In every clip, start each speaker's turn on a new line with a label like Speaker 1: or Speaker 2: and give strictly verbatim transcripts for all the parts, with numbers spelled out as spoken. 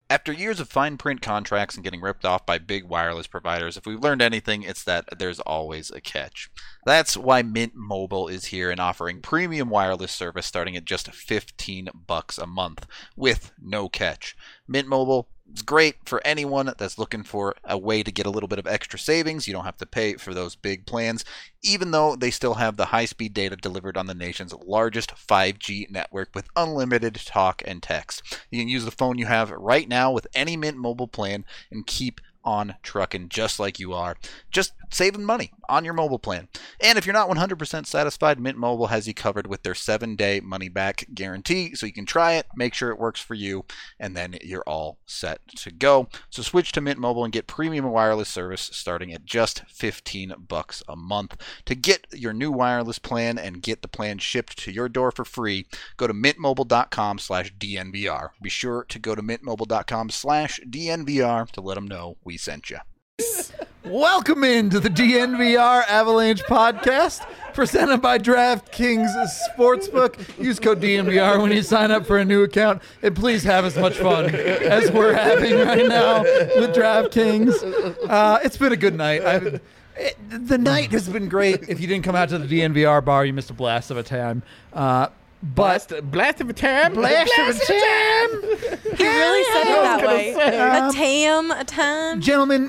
Speaker 1: After years of fine print contracts and getting ripped off by big wireless providers, if we've learned anything, it's that there's always a catch. That's why Mint Mobile is here and offering premium wireless service starting at just fifteen bucks a month with no catch. Mint Mobile is great for anyone that's looking for a way to get a little bit of extra savings. You don't have to pay for those big plans, even though they still have the high-speed data delivered on the nation's largest five G network with unlimited talk and text. You can use the phone you have right now with any Mint Mobile plan and keep on trucking just like you are, just saving money on your mobile plan. And if you're not one hundred percent satisfied, Mint Mobile has you covered with their seven-day money-back guarantee, so you can try it, make sure it works for you, and then you're all set to go. So switch to Mint Mobile and get premium wireless service starting at just fifteen bucks a month. To get your new wireless plan and get the plan shipped to your door for free, go to mintmobile.com slash DNVR. Be sure to go to mintmobile.com slash DNVR to let them know we sent you.
Speaker 2: Welcome into the D N V R Avalanche podcast presented by DraftKings Sportsbook. Use code D N V R when you sign up for a new account, and please have as much fun as we're having right now with DraftKings. Uh, it's been a good night. I've, it, the night has been great. If you didn't come out to the D N V R bar, you missed a blast of a time. Uh, But
Speaker 3: blast, blast of a time,
Speaker 2: blast, blast of a time.
Speaker 4: He really said it that way.
Speaker 2: Um,
Speaker 4: a tam, a time.
Speaker 2: Gentlemen,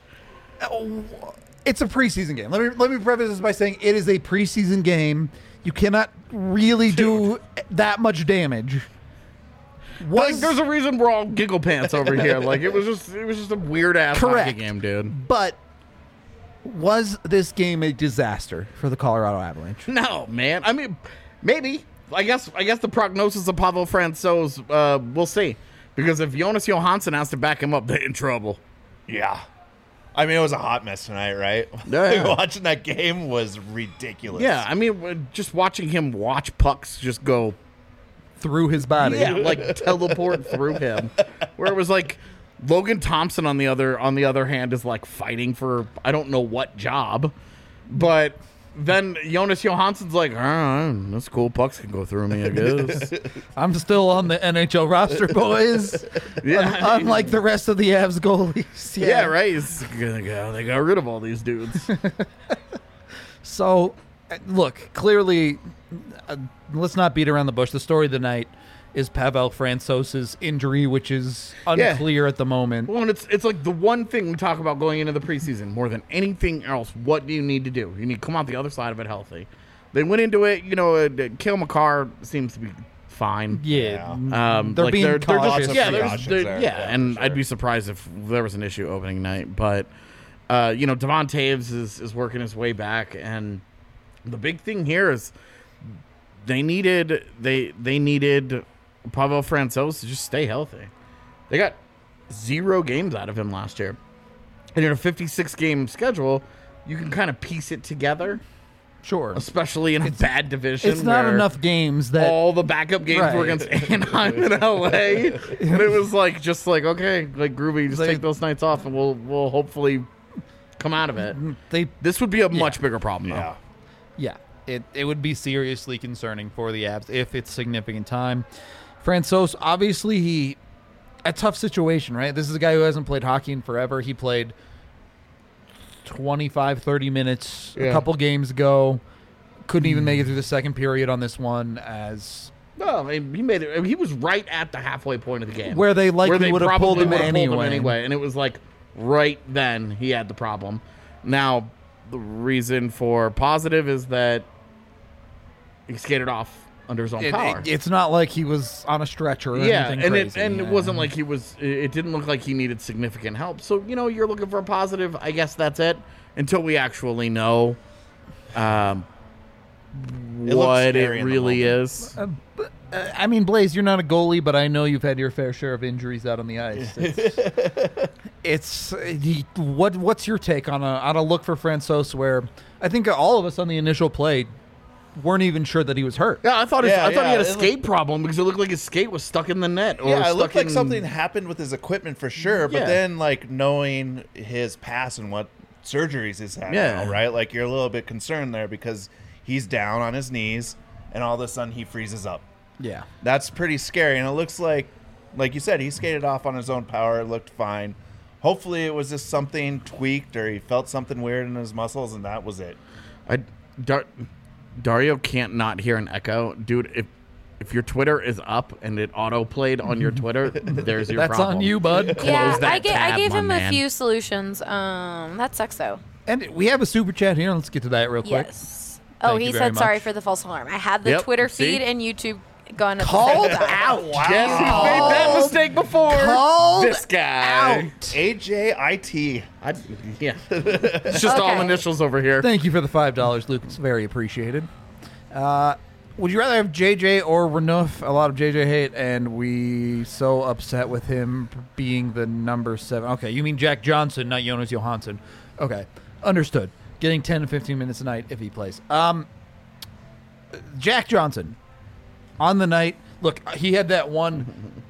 Speaker 2: it's a preseason game. Let me let me preface this by saying it is a preseason game. You cannot really do that much damage.
Speaker 3: Was, like, there's a reason we're all giggle pants over here. Like it was just it was just a weird ass hockey game, dude.
Speaker 2: But was this game a disaster for the Colorado Avalanche?
Speaker 3: No, man. I mean, maybe. I guess I guess the prognosis of Pavel Francouz, uh, we'll see. Because if Jonas Johansson has to back him up, they're in trouble.
Speaker 5: Yeah. I mean, it was a hot mess tonight, right?
Speaker 3: Yeah.
Speaker 5: Watching that game was ridiculous.
Speaker 3: Yeah, I mean, just watching him watch pucks just go
Speaker 2: through his body.
Speaker 3: Yeah, like teleport through him. Where it was like Logan Thompson on the other on the other hand is like fighting for I don't know what job. But then Jonas Johansson's like, all right, that's cool. Pucks can go through me, I guess.
Speaker 2: I'm still on the N H L roster, boys.
Speaker 3: Yeah,
Speaker 2: unlike the rest of the Avs goalies.
Speaker 3: Yeah, yeah right. It's, they got rid of all these dudes.
Speaker 2: So, look, clearly, uh, let's not beat around the bush. The story of the night is Pavel Francouz's injury, which is unclear yeah. at the moment.
Speaker 3: Well, and it's it's like the one thing we talk about going into the preseason more than anything else. What do you need to do? You need to come out the other side of it healthy. They went into it, you know, uh, Cale Makar seems to be fine.
Speaker 2: Yeah,
Speaker 3: um,
Speaker 2: they're
Speaker 3: like
Speaker 2: being
Speaker 3: they're,
Speaker 2: cautious.
Speaker 3: They're just, yeah, there's,
Speaker 5: there.
Speaker 3: yeah,
Speaker 5: yeah,
Speaker 3: and
Speaker 5: sure.
Speaker 3: I'd be surprised if there was an issue opening night. But uh, you know, Devon Toews is is working his way back, and the big thing here is they needed they they needed. Pavel Francouz to just stay healthy. They got zero games out of him last year. And in a fifty-six game schedule, you can kind of piece it together.
Speaker 2: Sure.
Speaker 3: Especially in a
Speaker 2: it's,
Speaker 3: bad division.
Speaker 2: It's not enough games that...
Speaker 3: All the backup games
Speaker 2: right.
Speaker 3: were against Anaheim and L A. And it was like, just like, okay, like Groovy, just
Speaker 2: they,
Speaker 3: take those nights off and we'll we'll hopefully come out of it.
Speaker 2: They,
Speaker 3: this would be a
Speaker 2: yeah.
Speaker 3: much bigger problem, though.
Speaker 5: Yeah.
Speaker 2: Yeah. It, it would be seriously concerning for the Avs if it's significant time. Francouz, obviously, he a tough situation, right? This is a guy who hasn't played hockey in forever. He played twenty-five, thirty minutes yeah. a couple games ago. Couldn't even make it through the second period on this one as...
Speaker 3: No, I mean, he made it. I mean, he was right at the halfway point of the game.
Speaker 2: Where they likely
Speaker 3: where they
Speaker 2: would have pulled him anyway.
Speaker 3: Pulled him anyway. And it was like right then he had the problem. Now, the reason for positive is that he skated off under his own
Speaker 2: it,
Speaker 3: power.
Speaker 2: It, it's not like he was on a stretcher or
Speaker 3: yeah,
Speaker 2: anything
Speaker 3: and
Speaker 2: crazy.
Speaker 3: It, and
Speaker 2: yeah.
Speaker 3: it wasn't like he was, it didn't look like he needed significant help. So, you know, you're looking for a positive. I guess that's it until we actually know um,
Speaker 5: it
Speaker 3: what it really is.
Speaker 2: Uh, but, uh, I mean, Blaze, you're not a goalie, but I know you've had your fair share of injuries out on the ice. It's, it's uh, he, what what's your take on a on a look for Francouz where I think all of us on the initial play weren't even sure that he was hurt.
Speaker 3: Yeah, I thought his,
Speaker 5: yeah,
Speaker 3: I thought
Speaker 5: yeah.
Speaker 3: he had a
Speaker 5: it
Speaker 3: skate
Speaker 5: looked,
Speaker 3: problem because it looked like his skate was stuck in the net. Or
Speaker 5: yeah, it
Speaker 3: stuck
Speaker 5: looked like
Speaker 3: in,
Speaker 5: something happened with his equipment for sure. But
Speaker 3: yeah.
Speaker 5: then, like, knowing his past and what surgeries he's had
Speaker 3: yeah.
Speaker 5: now, right? Like, you're a little bit concerned there because he's down on his knees and all of a sudden he freezes up.
Speaker 2: Yeah.
Speaker 5: That's pretty scary. And it looks like like you said, he skated off on his own power, looked fine. Hopefully it was just something tweaked or he felt something weird in his muscles, and that was it.
Speaker 3: I, Dar, Dario can't not hear an echo. Dude, if if your Twitter is up and it auto-played on your Twitter, there's your
Speaker 2: That's
Speaker 3: problem.
Speaker 2: on you, bud.
Speaker 4: Yeah,
Speaker 3: that
Speaker 4: I, ga- I
Speaker 3: tab,
Speaker 4: gave
Speaker 3: my
Speaker 4: him
Speaker 3: man.
Speaker 4: a few solutions. Um, that sucks though.
Speaker 2: And we have a super chat here. Let's get to that real quick.
Speaker 4: Yes. Oh,
Speaker 2: Thank
Speaker 4: he
Speaker 2: you very
Speaker 4: said sorry
Speaker 2: much.
Speaker 4: for the false alarm. I had the
Speaker 3: Yep,
Speaker 4: Twitter
Speaker 3: see?
Speaker 4: feed and YouTube going at the
Speaker 2: Called
Speaker 4: same time.
Speaker 2: out.
Speaker 3: Yes, he made that mistake before.
Speaker 2: Called
Speaker 3: this guy.
Speaker 2: out.
Speaker 5: A J I T.
Speaker 3: I, yeah. It's just all
Speaker 4: Okay.
Speaker 3: initials over here.
Speaker 2: Thank you for the five dollars, Luke. It's very appreciated. Uh, would you rather have J J or Renouf? A lot of J J hate, and we so upset with him being the number seven. Okay, you mean Jack Johnson, not Jonas Johansson. Okay, understood. Getting ten to fifteen minutes a night if he plays. Um, Jack Johnson, on the night, look, he had that one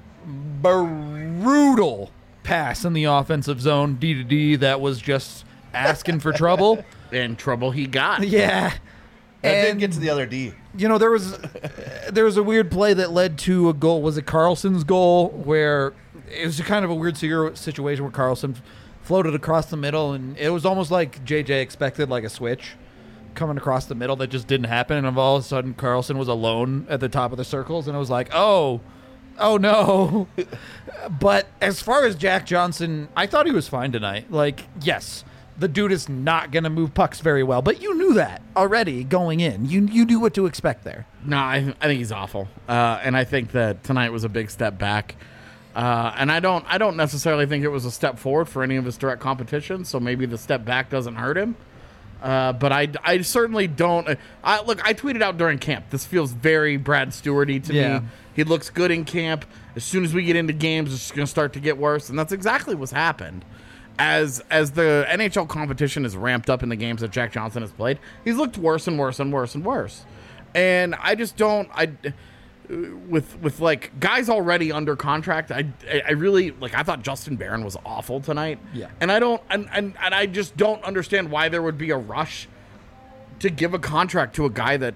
Speaker 2: brutal pass in the offensive zone, D to D, that was just asking for trouble.
Speaker 3: And trouble he got.
Speaker 2: Yeah.
Speaker 5: That didn't
Speaker 2: And,
Speaker 5: get to the other D.
Speaker 2: you know, there was there was a weird play that led to a goal. Was it Carlson's goal, where it was kind of a weird situ- situation where Carlson floated across the middle, and it was almost like J J expected, like a switch coming across the middle that just didn't happen, and all of a sudden Carlson was alone at the top of the circles, and it was like, oh, oh no. But as far as Jack Johnson, I thought he was fine tonight. Like, yes, the dude is not going to move pucks very well, but you knew that already going in. You you knew what to expect there.
Speaker 3: No, I, I think he's awful, uh, and I think that tonight was a big step back. Uh, and I don't I don't necessarily think it was a step forward for any of his direct competition. So maybe the step back doesn't hurt him. Uh, but I, I certainly don't. Uh, I, look, I tweeted out during camp. This feels very Brad Stewarty to
Speaker 2: Yeah.
Speaker 3: me. He looks good in camp. As soon as we get into games, it's going to start to get worse, and that's exactly what's happened. As as the N H L competition is ramped up in the games that Jack Johnson has played, he's looked worse and worse and worse and worse. And I just don't. I with with like guys already under contract. I I really like. I thought Justin Barron was awful tonight.
Speaker 2: Yeah.
Speaker 3: And I don't. And and, and I just don't understand why there would be a rush to give a contract to a guy that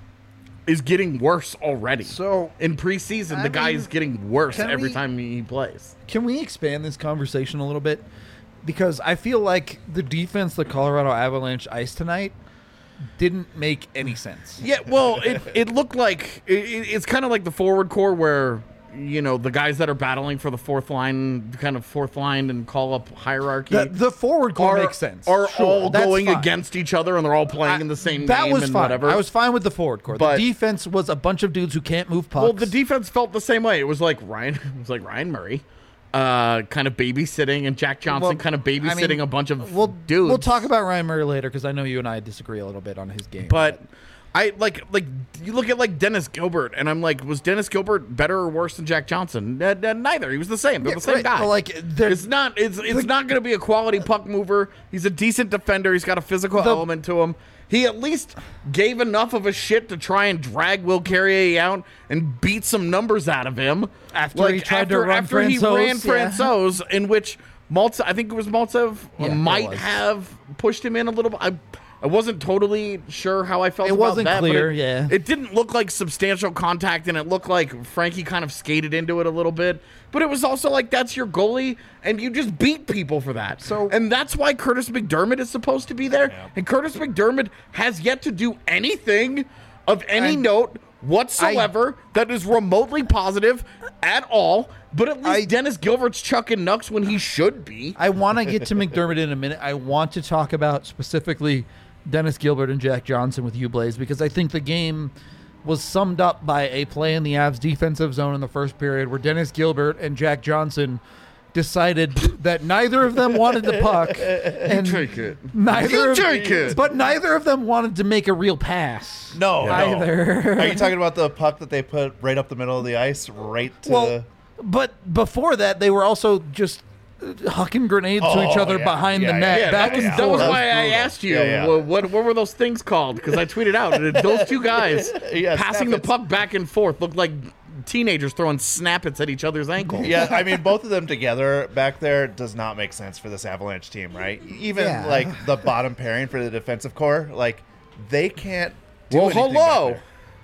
Speaker 3: is getting worse already.
Speaker 2: So,
Speaker 3: in preseason,
Speaker 2: I
Speaker 3: the guy
Speaker 2: mean,
Speaker 3: is getting worse
Speaker 2: can
Speaker 3: every
Speaker 2: we-
Speaker 3: time he plays.
Speaker 2: Can we expand this conversation a little bit? Because I feel like the defense the Colorado Avalanche iced tonight didn't make any sense.
Speaker 3: Yeah, well, it, it looked like it, it's kind of like the forward core where, you know, the guys that are battling for the fourth line, kind of fourth line and call up hierarchy,
Speaker 2: The, the forward core
Speaker 3: are,
Speaker 2: makes sense.
Speaker 3: are
Speaker 2: Sure,
Speaker 3: all
Speaker 2: that's
Speaker 3: going
Speaker 2: fine.
Speaker 3: against each other and they're all playing
Speaker 2: I-
Speaker 3: in the same
Speaker 2: that
Speaker 3: game
Speaker 2: was
Speaker 3: and
Speaker 2: fine.
Speaker 3: whatever.
Speaker 2: I was fine with the forward core.
Speaker 3: But-
Speaker 2: the defense was a bunch of dudes who can't move pucks.
Speaker 3: Well, the defense felt the same way. It was like Ryan, it was like Ryan Murray, uh, kind of babysitting, and Jack Johnson
Speaker 2: Well,
Speaker 3: kind of
Speaker 2: I
Speaker 3: babysitting
Speaker 2: mean,
Speaker 3: a bunch of
Speaker 2: we'll,
Speaker 3: dudes.
Speaker 2: We'll talk about Ryan Murray later because I know you and I disagree a little bit on his game.
Speaker 3: But I like like you look at like Dennis Gilbert, and I'm like, was Dennis Gilbert better or worse than Jack Johnson? N- n- neither. He was the same. They're
Speaker 2: Yeah,
Speaker 3: the same
Speaker 2: right,
Speaker 3: guy.
Speaker 2: but, like, they're-
Speaker 3: it's not. It's it's not going to be a quality puck mover. He's a decent defender. He's got a physical
Speaker 2: The-
Speaker 3: element to him. He at least gave enough of a shit to try and drag Will Carrier out and beat some numbers out of him.
Speaker 2: After he tried to
Speaker 3: after,
Speaker 2: run
Speaker 3: after he
Speaker 2: Francouz,
Speaker 3: ran
Speaker 2: yeah.
Speaker 3: Francouz, in which Maltsev, I think it was Maltsev,
Speaker 2: Yeah, it
Speaker 3: might
Speaker 2: was.
Speaker 3: have pushed him in a little bit. I, I wasn't totally sure how I felt
Speaker 2: It
Speaker 3: about
Speaker 2: wasn't
Speaker 3: that, but
Speaker 2: clear,
Speaker 3: it-
Speaker 2: yeah.
Speaker 3: It didn't look like substantial contact, and it looked like Frankie kind of skated into it a little bit. But it was also like, that's your goalie, and you just beat people for that.
Speaker 2: So-
Speaker 3: and that's why Curtis McDermott is supposed to be there. And Curtis McDermott has yet to do anything of any
Speaker 2: And
Speaker 3: note whatsoever that is remotely positive at all. But at least
Speaker 2: I-
Speaker 3: Dennis Gilbert's chucking nucks when he should be.
Speaker 2: I want to get to McDermott in a minute. I want to talk about specifically Dennis Gilbert and Jack Johnson with you, Blaze, because I think the game was summed up by a play in the Avs defensive zone in the first period where Dennis Gilbert and Jack Johnson decided that neither of them wanted the puck, and
Speaker 3: take it.
Speaker 2: neither
Speaker 3: You
Speaker 2: of,
Speaker 3: take it.
Speaker 2: but neither of them wanted to make a real pass.
Speaker 5: No, no.
Speaker 2: Either.
Speaker 5: Are you talking about the puck that they put right up the middle of the ice, right to?
Speaker 2: Well, but before that, they were also just uh, hucking grenades to each
Speaker 5: Oh,
Speaker 2: other
Speaker 5: yeah,
Speaker 2: behind
Speaker 5: yeah,
Speaker 2: the net,
Speaker 3: Yeah,
Speaker 2: back
Speaker 3: that was,
Speaker 2: and
Speaker 3: that was
Speaker 2: forth.
Speaker 3: why I
Speaker 5: brutal.
Speaker 3: asked you,
Speaker 5: Yeah, yeah.
Speaker 3: What, what what were those things called? Because I tweeted out that those two guys
Speaker 5: Yeah,
Speaker 3: passing the
Speaker 5: snappets.
Speaker 3: puck back and forth looked like teenagers throwing snappets at each other's ankles.
Speaker 5: yeah, I mean, both of them together back there does not make sense for this Avalanche team, right? Even
Speaker 2: Yeah.
Speaker 5: like the bottom pairing for the defensive core, like they can't. Do
Speaker 3: Well,
Speaker 5: anything
Speaker 3: hello.
Speaker 5: back there.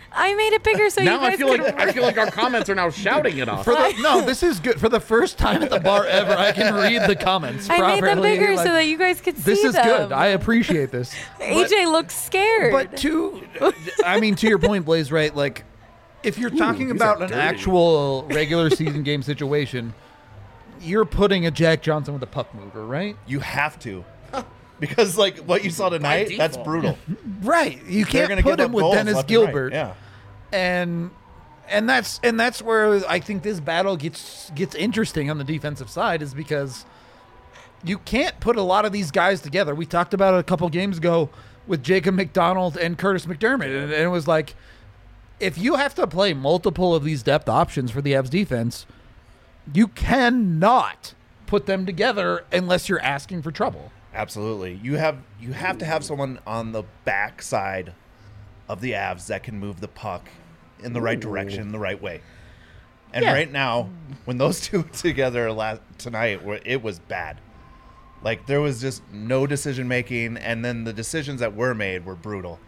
Speaker 4: I made it bigger so
Speaker 3: now
Speaker 4: you guys
Speaker 3: I feel
Speaker 4: could.
Speaker 3: like I feel like our comments are now shouting it off.
Speaker 2: For the, no, this is good. For the first time at the bar ever, I can read the comments
Speaker 4: I
Speaker 2: properly.
Speaker 4: made them bigger
Speaker 2: like,
Speaker 4: so that you guys could see
Speaker 2: this is
Speaker 4: them.
Speaker 2: good. I appreciate this.
Speaker 4: A J looks scared.
Speaker 2: But to, I mean, to your point, Blaze, right? Like, if you're talking
Speaker 3: these
Speaker 2: about
Speaker 3: are
Speaker 2: an
Speaker 3: dirty.
Speaker 2: actual regular season game situation, you're putting a Jack Johnson with a puck mover, right?
Speaker 5: You have to. Because, like, what you saw tonight, that's
Speaker 3: default.
Speaker 5: brutal.
Speaker 2: Right. You
Speaker 5: They're
Speaker 2: can't
Speaker 5: gonna
Speaker 2: put
Speaker 5: give
Speaker 2: him
Speaker 5: up
Speaker 2: with
Speaker 5: goals
Speaker 2: Dennis
Speaker 5: left and right.
Speaker 2: Gilbert.
Speaker 5: Yeah.
Speaker 2: and and that's and that's where I think this battle gets gets interesting on the defensive side, is because you can't put a lot of these guys together. We talked about it a couple games ago with Jacob McDonald and Curtis McDermott, and, and it was like, if you have to play multiple of these depth options for the Avs defense, you cannot put them together unless you're asking for trouble.
Speaker 5: Absolutely. You have you have to have someone on the back side of the Avs that can move the puck in the right direction, the right way. And
Speaker 2: Yeah.
Speaker 5: right now, when those two together last tonight, were- it was bad. Like, there was just no decision making, and then the decisions that were made were brutal.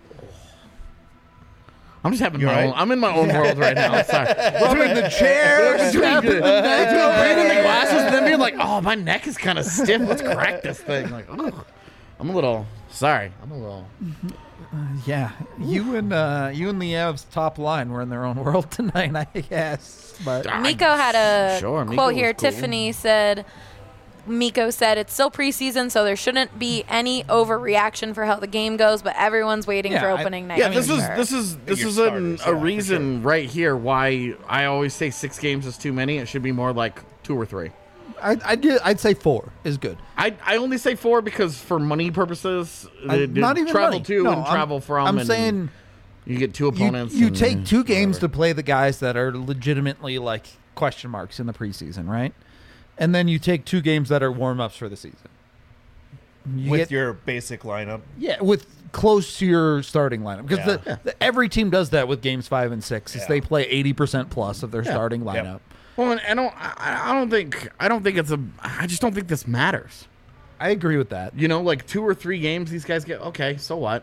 Speaker 3: I'm just having
Speaker 5: You
Speaker 3: my
Speaker 5: right?
Speaker 3: own. I'm in my own world right now. I'm sorry.
Speaker 2: Rubbing the chair, snapping the neck.
Speaker 3: Reading the glasses and then being like, oh, my neck is kind of stiff. Let's crack this thing. Like, oh, I'm a little sorry. I'm a little.
Speaker 2: Yeah, you and uh, you and the Avs top line were in their own world tonight, I guess. But
Speaker 4: Miko had a
Speaker 3: Sure, Miko
Speaker 4: quote
Speaker 3: was
Speaker 4: here.
Speaker 3: cool.
Speaker 4: Tiffany said, Miko said, it's still preseason, so there shouldn't be any overreaction for how the game goes, but everyone's waiting
Speaker 2: Yeah,
Speaker 4: for
Speaker 2: I-
Speaker 4: opening night.
Speaker 3: Yeah,
Speaker 4: for
Speaker 3: this is
Speaker 4: sure."
Speaker 3: this is this
Speaker 5: Your
Speaker 3: is an,
Speaker 5: starters, yeah,
Speaker 3: a
Speaker 5: for
Speaker 3: reason right here why I always say six games is too many. It should be more like two or three.
Speaker 2: I'd, I'd, gi- I'd say four is good.
Speaker 3: I I only say four because for money purposes,
Speaker 2: I-
Speaker 3: uh,
Speaker 2: not even
Speaker 3: travel
Speaker 2: money.
Speaker 3: to
Speaker 2: No,
Speaker 3: and
Speaker 2: I'm-
Speaker 3: travel from.
Speaker 2: I'm
Speaker 3: and
Speaker 2: saying
Speaker 3: you get two
Speaker 2: you,
Speaker 3: opponents.
Speaker 2: you
Speaker 3: and
Speaker 2: take two games
Speaker 3: whatever.
Speaker 2: to play the guys that are legitimately like question marks in the preseason, right? And then you take two games that are warm ups for the season. You
Speaker 5: With
Speaker 2: get-
Speaker 5: your basic lineup.
Speaker 2: yeah, with close to your starting lineup, because
Speaker 5: Yeah.
Speaker 2: the, the, every team does that with games five and six. Is
Speaker 5: Yeah.
Speaker 2: they play eighty percent plus of their
Speaker 3: Yeah.
Speaker 2: starting
Speaker 5: Yep.
Speaker 2: lineup.
Speaker 3: Well, and I don't. I, I don't think. I don't think it's a. I just don't think this matters.
Speaker 2: I agree with that.
Speaker 3: You know, like two or three games, these guys get okay. So what?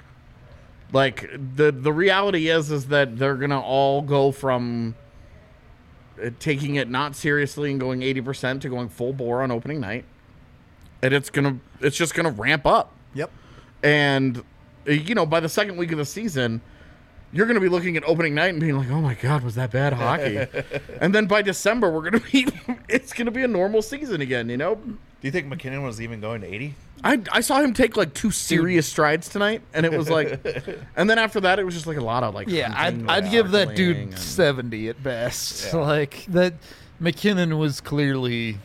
Speaker 3: Like the the reality is, is that they're gonna all go from uh, taking it not seriously and going eighty percent to going full bore on opening night, and it's gonna. It's just gonna ramp up.
Speaker 2: Yep.
Speaker 3: And uh, you know, by the second week of the season, you're going to be looking at opening night and being like, "Oh my God, was that bad hockey?" And then by December, we're going to be, it's going to be a normal season again. You know,
Speaker 5: Do you think McKinnon was even going to eighty?
Speaker 3: I I saw him take like two serious strides tonight, and it was like, and then after that, it was just like a lot of like,
Speaker 2: Yeah, I'd,
Speaker 3: hunting,
Speaker 2: I'd
Speaker 3: like,
Speaker 2: give that
Speaker 3: circling
Speaker 2: dude
Speaker 3: and-
Speaker 2: seventy at best.
Speaker 5: Yeah.
Speaker 2: Like that, McKinnon was clearly,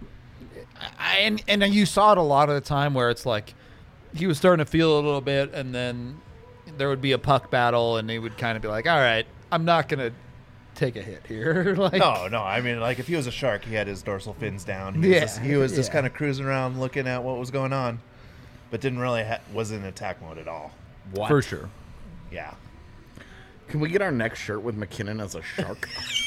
Speaker 2: I, and and you saw it a lot of the time where it's like he was starting to feel a little bit, and then there would be a puck battle, and he would kind of be like, "All right, I'm not gonna take a hit here." Like,
Speaker 5: No, no. I mean, like, if he was a shark, he had his dorsal fins down. He was
Speaker 2: Yeah,
Speaker 5: just, he was just
Speaker 2: yeah.
Speaker 5: kind of cruising around looking at what was going on, but didn't really ha- was in attack mode at all.
Speaker 3: What?
Speaker 2: for sure.
Speaker 5: Yeah.
Speaker 3: Can we get our next shirt with McKinnon as a shark?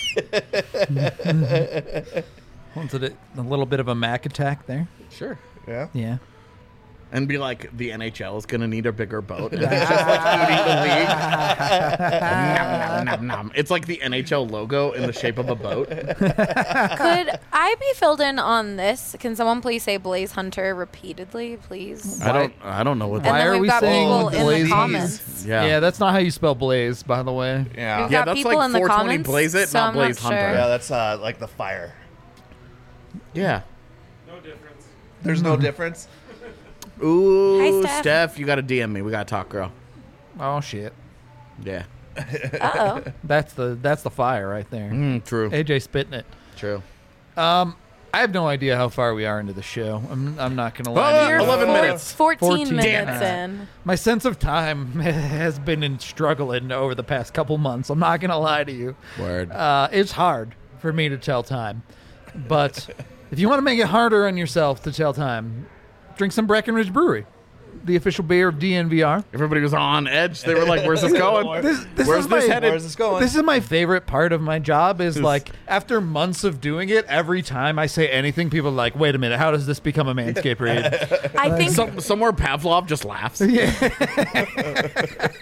Speaker 2: Wanted it a little bit of a Mac attack there.
Speaker 3: Sure.
Speaker 5: Yeah.
Speaker 2: Yeah.
Speaker 3: And be like, the N H L is going to need a bigger boat. And it's just like eating the league. nom, nom, nom, nom. It's like the N H L logo in the shape of a boat.
Speaker 4: Could I be filled in on this? Can someone please say Blaze Hunter repeatedly, please?
Speaker 3: I don't I don't know what
Speaker 4: And
Speaker 2: Why
Speaker 3: that
Speaker 4: then
Speaker 2: are
Speaker 4: we've
Speaker 2: we
Speaker 4: got
Speaker 2: saying
Speaker 4: people in
Speaker 2: Blaze
Speaker 4: the
Speaker 2: Hunter?
Speaker 4: comments.
Speaker 3: Yeah.
Speaker 2: Yeah, that's not how you spell Blaze, by the way.
Speaker 5: Yeah.
Speaker 4: We've
Speaker 3: Yeah,
Speaker 4: got
Speaker 3: that's
Speaker 4: people
Speaker 3: like
Speaker 4: in the
Speaker 3: four twenty
Speaker 4: comments.
Speaker 3: Blaze It,
Speaker 4: so
Speaker 3: not
Speaker 4: I'm
Speaker 3: Blaze
Speaker 4: not
Speaker 3: Hunter.
Speaker 4: sure.
Speaker 5: Yeah, that's uh, like the fire.
Speaker 3: Yeah.
Speaker 5: There's no difference.
Speaker 3: Ooh,
Speaker 4: Hi, Steph.
Speaker 3: Steph, you got to D M me. We got to talk, girl.
Speaker 2: Oh shit.
Speaker 3: Yeah.
Speaker 4: Uh oh.
Speaker 2: That's the that's the fire right there.
Speaker 3: Mm, true.
Speaker 2: A J spitting it.
Speaker 3: True.
Speaker 2: Um, I have no idea how far we are into the show. I'm I'm not gonna
Speaker 3: Oh,
Speaker 2: lie. to
Speaker 4: You're
Speaker 2: you.
Speaker 3: eleven
Speaker 4: four-
Speaker 3: minutes.
Speaker 4: fourteen,
Speaker 2: fourteen.
Speaker 4: minutes
Speaker 2: Damn
Speaker 4: in.
Speaker 2: My sense of time has been in struggling over the past couple months. I'm not gonna lie to you.
Speaker 3: Word.
Speaker 2: Uh, it's hard for me to tell time, but if you want to make it harder on yourself to tell time, drink some Breckenridge Brewery, the official beer of D N V R.
Speaker 3: Everybody was on edge. They were like, where's this going?
Speaker 2: This, this
Speaker 3: Where's
Speaker 2: is
Speaker 3: this
Speaker 2: my,
Speaker 3: headed?
Speaker 5: Where's this going?
Speaker 2: This is my favorite part of my job is like after months of doing it, every time I say anything, people are like, wait a minute, how does this become a Manscaped read?
Speaker 4: I think
Speaker 3: Some, somewhere Pavlov just laughs.
Speaker 2: Yeah.
Speaker 4: I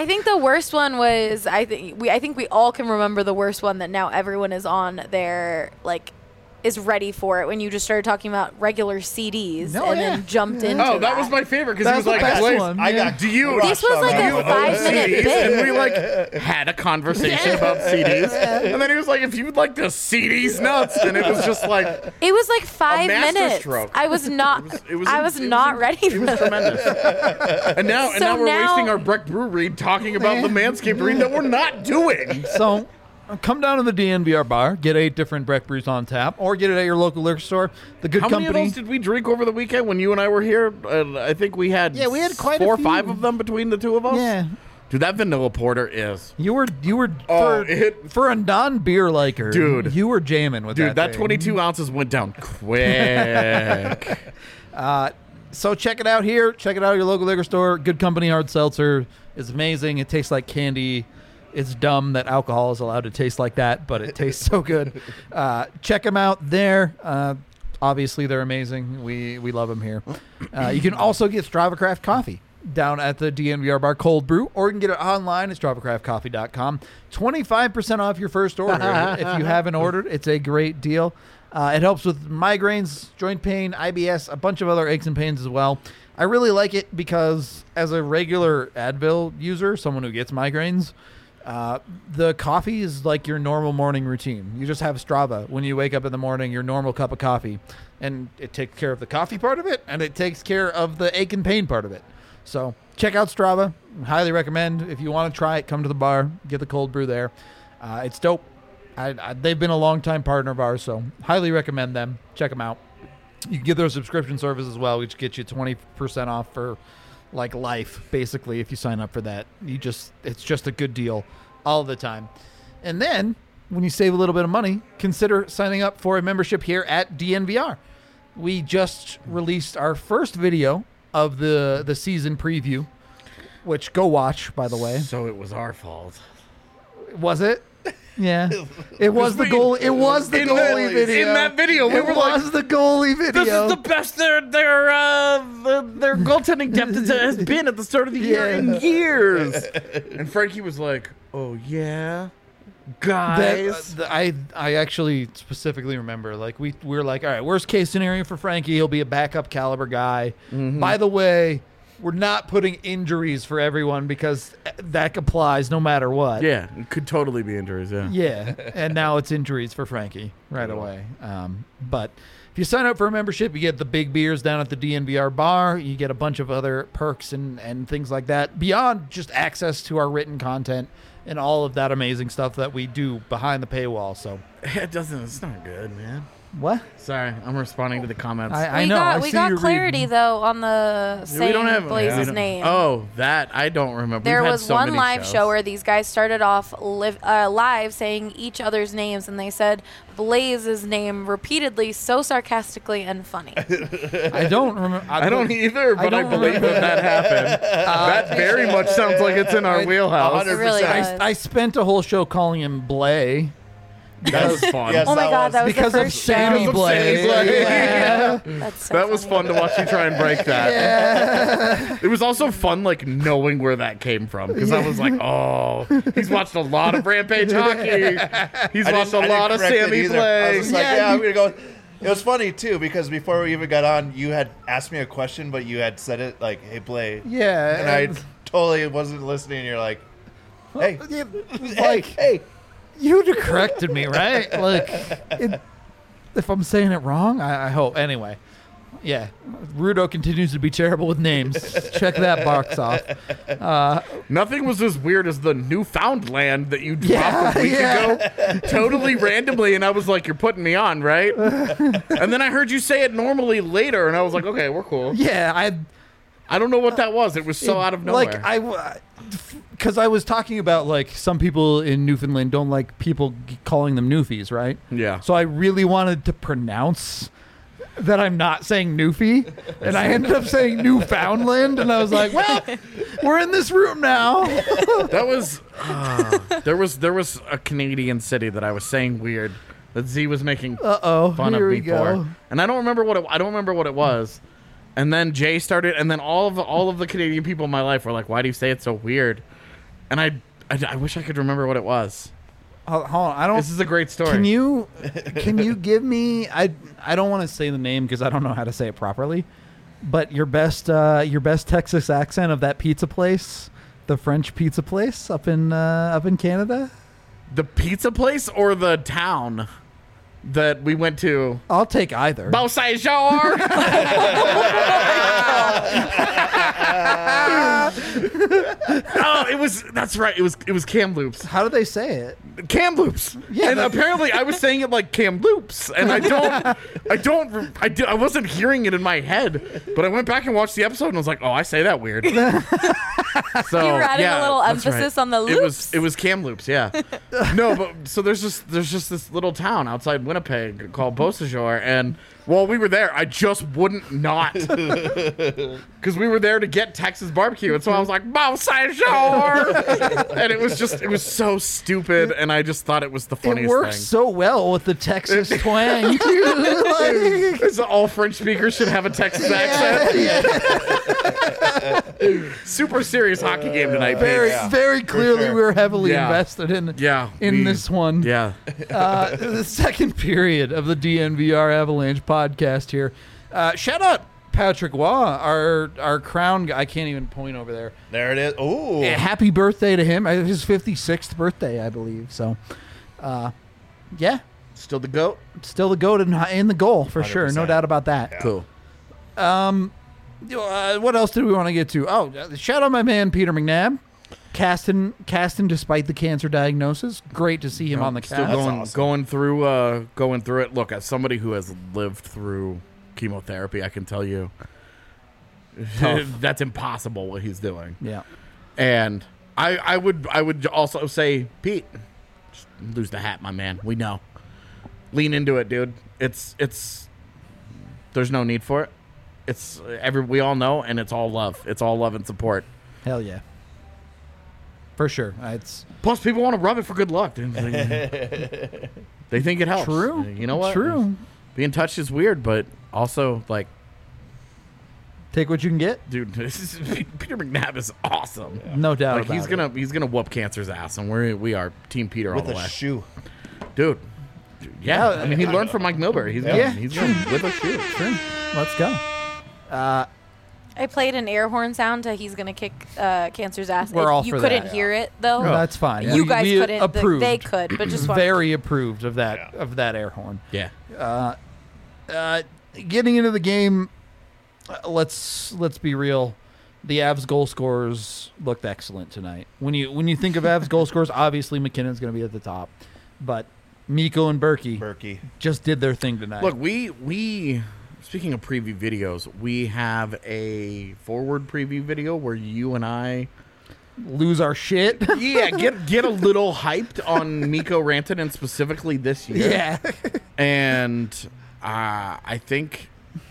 Speaker 4: I think the worst one was I think we I think we all can remember the worst one that now everyone is on their like is ready for it when you just started talking about regular C Ds
Speaker 2: No,
Speaker 4: and
Speaker 2: yeah.
Speaker 4: then jumped
Speaker 2: Yeah.
Speaker 4: into
Speaker 3: Oh, that
Speaker 4: that
Speaker 3: was my favorite because he
Speaker 2: That's
Speaker 3: was like,
Speaker 2: the best
Speaker 3: "Wait,
Speaker 2: one.
Speaker 5: I
Speaker 2: yeah.
Speaker 5: got
Speaker 3: do you
Speaker 4: This was like
Speaker 5: on
Speaker 4: a
Speaker 5: that.
Speaker 4: five-minute
Speaker 3: C Ds?"
Speaker 4: bit.
Speaker 3: And we like had a conversation about C Ds, and then he was like, "If you'd like to C Ds nuts," and it was just like
Speaker 4: It was like five minutes.
Speaker 3: masterstroke.
Speaker 4: I was not.
Speaker 3: It was- it was-
Speaker 4: I was
Speaker 3: it was-
Speaker 4: not ready
Speaker 3: it
Speaker 4: for
Speaker 3: was
Speaker 4: that.
Speaker 3: tremendous. And now, and
Speaker 4: So
Speaker 3: now we're
Speaker 4: now-
Speaker 3: wasting our Breck Brew read talking about the Manscaped read that we're not doing.
Speaker 2: So uh, come down to the D N V R bar, get eight different Breck brews on tap, or get it at your local liquor store. The good
Speaker 3: How many
Speaker 2: company.
Speaker 3: of those did we drink over the weekend when you and I were here? Uh, I think we had
Speaker 2: Yeah, we had quite a
Speaker 3: four or
Speaker 2: few.
Speaker 3: five of them between the two of us.
Speaker 2: yeah.
Speaker 3: Dude, that vanilla porter is.
Speaker 2: You were you were
Speaker 3: Oh,
Speaker 2: for,
Speaker 3: it-
Speaker 2: for a non beer liker,
Speaker 3: Dude.
Speaker 2: You were jamming with
Speaker 3: Dude,
Speaker 2: that.
Speaker 3: that
Speaker 2: thing.
Speaker 3: twenty-two ounces went down quick.
Speaker 2: So check it out here. Check it out at your local liquor store. Good Company Hard Seltzer is amazing. It tastes like candy. It's dumb that alcohol is allowed to taste like that, but it tastes so good. Uh, check them out there. Uh, obviously, they're amazing. We we love them here. Uh, you can also get Strava Craft coffee down at the D N V R bar Cold Brew, or you can get it online at strava craft coffee dot com. twenty-five percent off your first order if you haven't ordered. It's a great deal. Uh, it helps with migraines, joint pain, I B S, a bunch of other aches and pains as well. I really like it because as a regular Advil user, someone who gets migraines, uh, the coffee is like your normal morning routine. You just have Strava when you wake up in the morning, your normal cup of coffee, and it takes care of the coffee part of it, and it takes care of the ache and pain part of it. So check out Strava. Highly recommend. If you want to try it, come to the bar, get the cold brew there. Uh, it's dope. I, I, they've been a long-time partner of ours, so highly recommend them. Check them out. You can get their subscription service as well, which gets you twenty percent off for like life, basically, if you sign up for that. You just it's just a good deal all the time. And then when you save a little bit of money, consider signing up for a membership here at D N V R. We just released our first video of the the season preview, which go watch, by the way.
Speaker 3: So it was our fault.
Speaker 2: Was it? Yeah, it was the goal. It was the
Speaker 3: in
Speaker 2: goalie
Speaker 3: that,
Speaker 2: video.
Speaker 3: In that video, we
Speaker 2: it
Speaker 3: were
Speaker 2: was
Speaker 3: like,
Speaker 2: the goalie
Speaker 3: "This
Speaker 2: video.
Speaker 3: is the best their their uh, the, their goaltending depth has been at the start of the year
Speaker 2: Yeah.
Speaker 3: in years." And Frankie was like, "Oh yeah, guys."
Speaker 2: That, uh, I I actually specifically remember, like we we were like, all right, worst case scenario for Frankie, he'll be a backup caliber guy.
Speaker 3: Mm-hmm.
Speaker 2: By the way, we're not putting injuries for everyone because that applies no matter what.
Speaker 3: yeah, it could totally be injuries. Yeah.
Speaker 2: Yeah, and now it's injuries for Frankie right away. Um, but if you sign up for a membership, you get the big beers down at the D N V R bar. You get a bunch of other perks and, and things like that beyond just access to our written content and all of that amazing stuff that we do behind the paywall. So
Speaker 3: It doesn't. It's not good, man.
Speaker 2: what?
Speaker 3: Sorry, I'm responding to the comments.
Speaker 2: I, I
Speaker 4: we
Speaker 2: know.
Speaker 4: got
Speaker 2: I
Speaker 4: we
Speaker 2: see
Speaker 4: got
Speaker 2: you
Speaker 4: clarity
Speaker 2: reading.
Speaker 4: though on the saying
Speaker 3: we don't have
Speaker 4: Blaze's
Speaker 3: we don't-
Speaker 4: name.
Speaker 3: Oh, that I don't remember.
Speaker 4: There
Speaker 3: We've had
Speaker 4: was
Speaker 3: so
Speaker 4: one
Speaker 3: many
Speaker 4: live
Speaker 3: shows.
Speaker 4: show where these guys started off live, uh, live saying each other's names, and they said Blaze's name repeatedly, so sarcastically and funny.
Speaker 2: I don't remember.
Speaker 3: I don't either, but I,
Speaker 2: don't
Speaker 3: believe
Speaker 2: remember.
Speaker 3: that that happened. that very much sounds like it's in our
Speaker 2: I-
Speaker 3: wheelhouse.
Speaker 4: It really does.
Speaker 2: I, I spent a whole show calling him Blay.
Speaker 3: That was fun.
Speaker 5: Yes.
Speaker 4: Oh my
Speaker 5: that
Speaker 4: god,
Speaker 5: was-
Speaker 4: that was
Speaker 2: Because
Speaker 4: the
Speaker 2: of
Speaker 4: first
Speaker 2: Sammy
Speaker 4: show.
Speaker 3: Because of Sammy
Speaker 2: Blay.
Speaker 3: Blay.
Speaker 2: Yeah.
Speaker 4: That's so
Speaker 3: That was
Speaker 4: funny.
Speaker 3: fun to watch you try and break that. It was also fun, like, knowing where that came from. Because I was like, oh, he's watched a lot of Rampage hockey. He's
Speaker 5: I
Speaker 3: watched
Speaker 5: didn't-
Speaker 3: a
Speaker 5: I
Speaker 3: lot
Speaker 5: didn't
Speaker 3: of
Speaker 5: correct it
Speaker 3: Sammy
Speaker 5: either. I was
Speaker 3: play.
Speaker 5: just like,
Speaker 2: Yeah,
Speaker 5: yeah, I'm
Speaker 2: you-
Speaker 5: gonna go. It was funny too because before we even got on, you had asked me a question, but you had said it like, "Hey, Blay,"
Speaker 2: Yeah.
Speaker 5: and I totally wasn't listening. You're like, "Hey,
Speaker 2: Yeah,
Speaker 5: hey,
Speaker 2: like,
Speaker 5: hey."
Speaker 2: you'd have corrected me, right? Like, it, if I'm saying it wrong, I, I hope. Anyway, yeah, Rudo continues to be terrible with names. Check that box off. Uh,
Speaker 3: Nothing was as weird as the Newfoundland that you dropped
Speaker 2: Yeah,
Speaker 3: a week
Speaker 2: yeah.
Speaker 3: ago, totally randomly, and I was like, "You're putting me on, right?" And then I heard you say it normally later, and I was like, "Okay, we're cool."
Speaker 2: yeah, I
Speaker 3: I don't know what that was. It was so out of nowhere.
Speaker 2: like I, because I was talking about like some people in Newfoundland don't like people g- calling them Newfies, right?
Speaker 3: yeah.
Speaker 2: So I really wanted to pronounce that I'm not saying Newfie, and I ended up saying Newfoundland, and I was like, well, we're in this room now.
Speaker 3: That was uh, there was there was a Canadian city that I was saying weird that Z was making
Speaker 2: Uh oh,
Speaker 3: fun
Speaker 2: here
Speaker 3: of
Speaker 2: we
Speaker 3: me
Speaker 2: go.
Speaker 3: for, and I don't remember what it, I don't remember what it was. And then Jay started, and then all of the, all of the Canadian people in my life were like, "Why do you say it so weird?" and I, I, I wish I could remember what it was.
Speaker 2: Hold hold on, I don't.
Speaker 3: This is a great story.
Speaker 2: Can you can you give me? I I don't want to say the name because I don't know how to say it properly. But your best uh, your best Texas accent of that pizza place, the French pizza place up in uh, up in Canada.
Speaker 3: The pizza place or the town that we went to?
Speaker 2: I'll take either.
Speaker 3: Beausejour. Oh, it was. That's right. It was. It was Kamloops.
Speaker 2: How do they say it?
Speaker 3: Kamloops.
Speaker 2: Yeah,
Speaker 3: and
Speaker 2: that-
Speaker 3: apparently I was saying it like Kamloops, and I don't. I don't. I, do, I wasn't hearing it in my head, but I went back and watched the episode and was like, oh, I say that weird. So
Speaker 4: You were adding
Speaker 3: yeah,
Speaker 4: a little
Speaker 3: that's
Speaker 4: emphasis
Speaker 3: right.
Speaker 4: on the
Speaker 3: It was.
Speaker 4: loops.
Speaker 3: It was Kamloops. Yeah. No, but so there's just there's just this little town outside Winnipeg called Beausejour, and while we were there, I just wouldn't not because we were there to get Texas barbecue, and so I was like Beausejour, and it was just it was so stupid, and I just thought it was the funniest
Speaker 2: It works
Speaker 3: thing.
Speaker 2: so well with the Texas twang. Too. Like,
Speaker 3: It's all French speakers should have a Texas accent. Super serious hockey game tonight,
Speaker 2: very
Speaker 3: Paige.
Speaker 2: very clearly,
Speaker 5: sure.
Speaker 2: we were heavily
Speaker 3: Yeah.
Speaker 2: invested in
Speaker 3: Yeah,
Speaker 2: in
Speaker 3: we-
Speaker 2: this one.
Speaker 3: Yeah.
Speaker 2: Uh, the second period of the D N V R Avalanche podcast here. Uh, shout out Patrick Waugh, our our crown guy. I can't even point over there.
Speaker 5: There it is. Ooh.
Speaker 2: Yeah, happy birthday to him. Uh, His fifty-sixth birthday, I believe. So, uh, yeah,
Speaker 3: Still the goat.
Speaker 2: still the goat in, in the goal for sure. No
Speaker 5: one hundred percent.
Speaker 2: doubt about that.
Speaker 5: Yeah.
Speaker 3: Cool.
Speaker 2: Uh, what else did we want to get to? Oh, uh, shout out my man Peter McNabb. Casting, casting despite the cancer diagnosis. Great to see him on the
Speaker 3: Still
Speaker 2: cast.
Speaker 3: going
Speaker 5: awesome.
Speaker 3: going through uh going through it. Look, as somebody who has lived through chemotherapy, I can tell you
Speaker 2: Tough.
Speaker 3: that's impossible what he's doing.
Speaker 2: Yeah.
Speaker 3: And I I would I would also say, Pete, just lose the hat, my man. We know. Lean into it, dude. It's it's there's no need for it. It's every we all know, and it's all love. It's all love and support.
Speaker 2: Hell yeah. For sure. Uh, It's
Speaker 3: Plus, people want to rub it for good luck. dude. They they think it helps.
Speaker 2: true.
Speaker 3: You know what?
Speaker 2: True.
Speaker 3: Being touched is weird, but also like,
Speaker 2: Take what you can get.
Speaker 3: dude, this is, Peter McNabb is awesome.
Speaker 2: No doubt
Speaker 3: Like
Speaker 2: about
Speaker 3: he's
Speaker 2: it.
Speaker 3: gonna he's gonna whoop cancer's ass, and we're we are Team Peter all
Speaker 5: With
Speaker 3: the
Speaker 5: a
Speaker 3: way,
Speaker 5: shoe.
Speaker 3: dude. Yeah,
Speaker 2: Yeah,
Speaker 3: I mean he learned from Mike Milbury. He's gonna,
Speaker 2: Yeah.
Speaker 3: he's gonna with a shoe.
Speaker 2: Sure. Let's go. Uh,
Speaker 4: I played an air horn sound to "He's gonna kick uh, cancer's ass."
Speaker 2: We're
Speaker 4: It-
Speaker 2: all
Speaker 4: you
Speaker 2: for
Speaker 4: couldn't
Speaker 2: that.
Speaker 4: hear it though.
Speaker 2: That's fine.
Speaker 4: You
Speaker 2: We-
Speaker 4: guys
Speaker 2: we
Speaker 4: couldn't. the-
Speaker 2: Approved.
Speaker 4: They could, but just wanted-
Speaker 2: Very approved of that
Speaker 5: Yeah.
Speaker 2: of that air horn.
Speaker 3: Yeah,
Speaker 2: Uh, getting into the game, uh, let's let's be real. The Avs goal scorers looked excellent tonight. When you when you think of Avs goal scorers, obviously McKinnon's going to be at the top, but Mikko and Berkey
Speaker 5: Berkey.
Speaker 2: just did their thing tonight.
Speaker 3: look, we we speaking of preview videos, we have a forward preview video where you and I.
Speaker 2: lose our shit.
Speaker 3: Yeah, get get a little hyped on Mikko Rantanen specifically this year.
Speaker 2: yeah.
Speaker 3: And uh, I think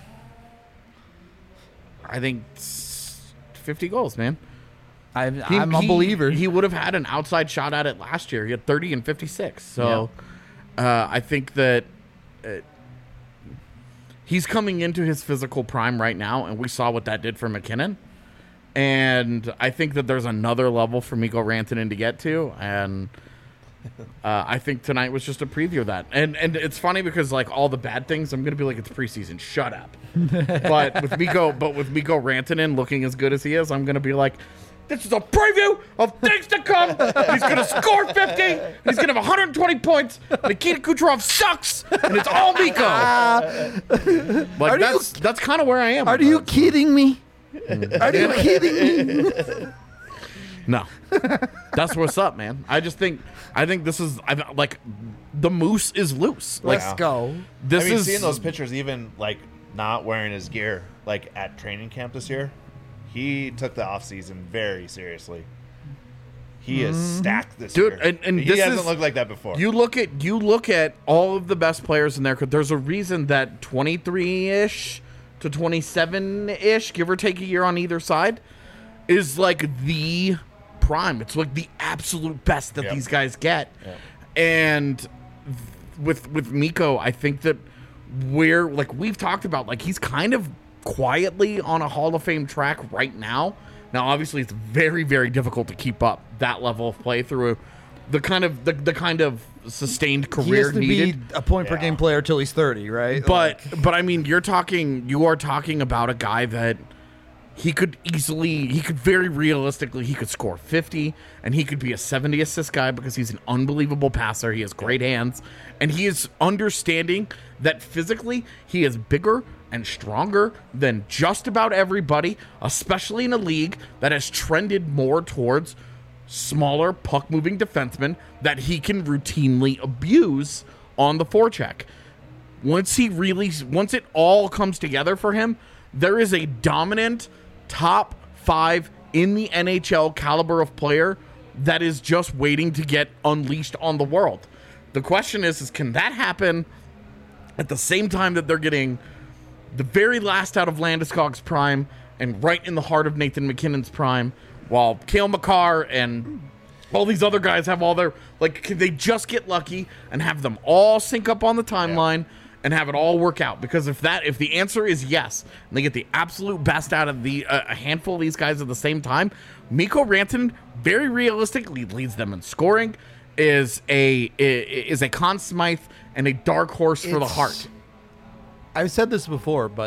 Speaker 3: I think s- fifty goals, man.
Speaker 2: I'm,
Speaker 3: He-
Speaker 2: I'm a
Speaker 3: he-
Speaker 2: believer.
Speaker 3: He would have had an outside shot at it last year. He had thirty and fifty-six. So uh, I think that uh, he's coming into his physical prime right now, and we saw what that did for McKinnon. And I think that there's another level for Mikko Rantanen to get to, and uh, I think tonight was just a preview of that. And and it's funny because like all the bad things, I'm gonna be like, it's preseason, shut up. but with Mikko, but with Mikko Rantanen looking as good as he is, I'm gonna be like, this is a preview of things to come. He's gonna score fifty. He's gonna have one hundred twenty points. Nikita Kucherov sucks, and it's all Mikko. like
Speaker 2: Are you-
Speaker 3: that's that's kind of where I am.
Speaker 2: Are
Speaker 3: with
Speaker 2: you
Speaker 3: that.
Speaker 2: kidding me? Are you kidding me?
Speaker 3: No, that's what's up, man. I just think I think this is I like the moose is loose. Like
Speaker 2: Let's go.
Speaker 3: this
Speaker 5: I mean,
Speaker 3: is
Speaker 5: seeing those pictures, even like not wearing his gear, like at training camp this year, he took the off season very seriously. He is stacked this
Speaker 3: Dude,
Speaker 5: year.
Speaker 3: and- and
Speaker 5: he
Speaker 3: this
Speaker 5: hasn't
Speaker 3: is-
Speaker 5: looked like that before.
Speaker 3: You look at you look at all of the best players in there. 'Cause there's a reason that twenty-three ish to twenty-seven ish, give or take a year on either side, is like the prime. It's like the absolute best that
Speaker 5: Yep.
Speaker 3: these guys get.
Speaker 5: Yep.
Speaker 3: And th- with with Mikko, I think that we're like we've talked about, like he's kind of quietly on a Hall of Fame track right now, Now, obviously, it's very, very difficult to keep up that level of play through the kind of the, the kind of sustained
Speaker 2: He
Speaker 3: career
Speaker 2: has to
Speaker 3: needed.
Speaker 2: be a point per
Speaker 5: Yeah.
Speaker 2: game player till he's thirty, right?
Speaker 3: But
Speaker 2: Like,
Speaker 3: but I mean, you're talking you are talking about a guy that he could easily he could very realistically he could score fifty and he could be a seventy assist guy because he's an unbelievable passer. He has great hands and he is understanding that physically he is bigger and stronger than just about everybody, especially in a league that has trended more towards smaller puck moving defensemen that he can routinely abuse on the forecheck. Once he really, once it all comes together for him, there is a dominant top five in the N H L caliber of player that is just waiting to get unleashed on the world. The question is, is can that happen at the same time that they're getting the very last out of Landeskog's prime and right in the heart of Nathan McKinnon's prime, while Cale Makar and all these other guys have all their, like, can they just get lucky and have them all sync up on the timeline and have it all work out? Because if that, if the answer is yes, and they get the absolute best out of the uh, a handful of these guys at the same time, Mikko Rantanen very realistically leads them in scoring, is a is a Conn Smythe and a dark horse for the
Speaker 2: It's-
Speaker 3: heart.
Speaker 2: I've said this before, but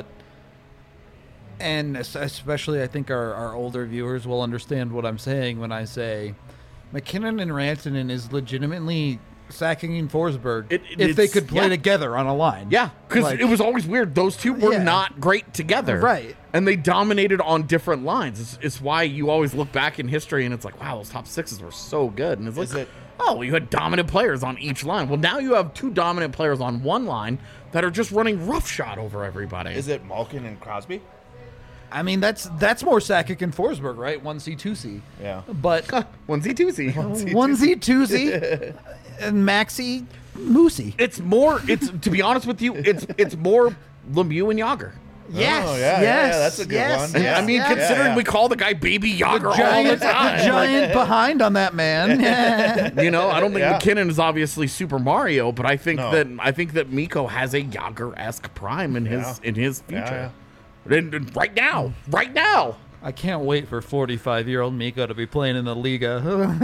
Speaker 2: and es- especially I think our, our older viewers will understand what I'm saying when I say McKinnon and Rantanen is legitimately sacking Forsberg
Speaker 3: It- it-
Speaker 2: if they
Speaker 3: it's-
Speaker 2: could play
Speaker 3: yeah.
Speaker 2: together on a line.
Speaker 3: Yeah, because
Speaker 2: Like-
Speaker 3: it was always weird. Those two were
Speaker 2: Yeah.
Speaker 3: not great together.
Speaker 2: Right.
Speaker 3: And they dominated on different lines. It's, it's why you always look back in history and it's like, wow, those top sixes were so good. And it's like,
Speaker 5: Is it-
Speaker 3: oh, well, you had dominant players on each line. Well, now you have two dominant players on one line that are just running roughshod over everybody.
Speaker 5: Is it Malkin and Crosby?
Speaker 2: I mean that's that's more Sakic and Forsberg, right? One C, two C.
Speaker 5: Yeah.
Speaker 2: But
Speaker 3: Onesie twosie.
Speaker 2: one Z, two Z, and Maxi, Moosey.
Speaker 3: It's more, it's, to be honest with you, it's it's more Lemieux and Yager.
Speaker 2: Yes,
Speaker 5: Oh, yeah, yeah,
Speaker 2: yes,
Speaker 5: yeah, that's a good
Speaker 2: yes,
Speaker 5: one.
Speaker 2: yes,
Speaker 3: I mean,
Speaker 2: yes.
Speaker 3: considering
Speaker 5: yeah.
Speaker 3: we call the guy Baby Yager all the
Speaker 2: giant,
Speaker 3: time.
Speaker 2: the giant behind on that man.
Speaker 3: You know, I don't think
Speaker 5: Yeah.
Speaker 3: McKinnon is obviously Super Mario, but I think
Speaker 5: No.
Speaker 3: that I think that Mikko has a Yager-esque prime in his
Speaker 5: Yeah.
Speaker 3: in his
Speaker 5: Yeah,
Speaker 3: future. And- and right now, right now.
Speaker 2: I can't wait for forty-five-year-old Mikko to be playing in the Liga.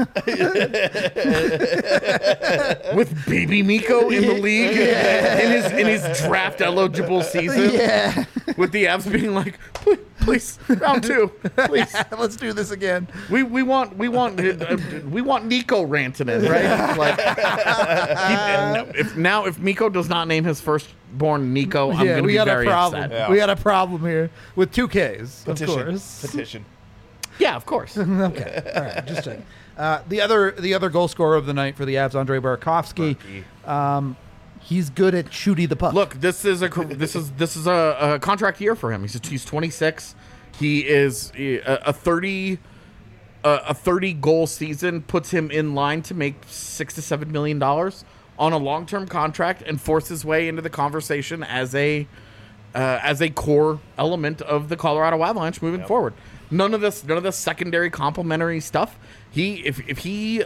Speaker 3: With baby Mikko in the league in his in his draft eligible season,
Speaker 2: yeah,
Speaker 3: with the Avs being like, please, please round two, please.
Speaker 2: let's do this again.
Speaker 3: We we want we want uh, we want Nico Rantanen, right? Like, he- if now if Mikko does not name his firstborn Nico, I'm
Speaker 2: yeah,
Speaker 3: going to
Speaker 2: we
Speaker 3: be
Speaker 2: got
Speaker 3: very
Speaker 2: a problem.
Speaker 3: upset.
Speaker 5: Yeah.
Speaker 2: We got a problem here with two Ks, of
Speaker 5: Petition.
Speaker 2: course.
Speaker 5: Petition.
Speaker 3: Yeah, of course.
Speaker 2: Okay, all right, just checking. Uh, the other the other goal scorer of the night for the Avs, Andrei Burakovsky. Um, he's good at shooting the puck.
Speaker 3: Look, this is a this is this is a, a contract year for him. He's he's twenty-six. He is a, a thirty a, a thirty goal season puts him in line to make six to seven million dollars on a long term contract and force his way into the conversation as a uh, as a core element of the Colorado Avalanche moving forward. None of this none of this secondary complementary stuff. He if if he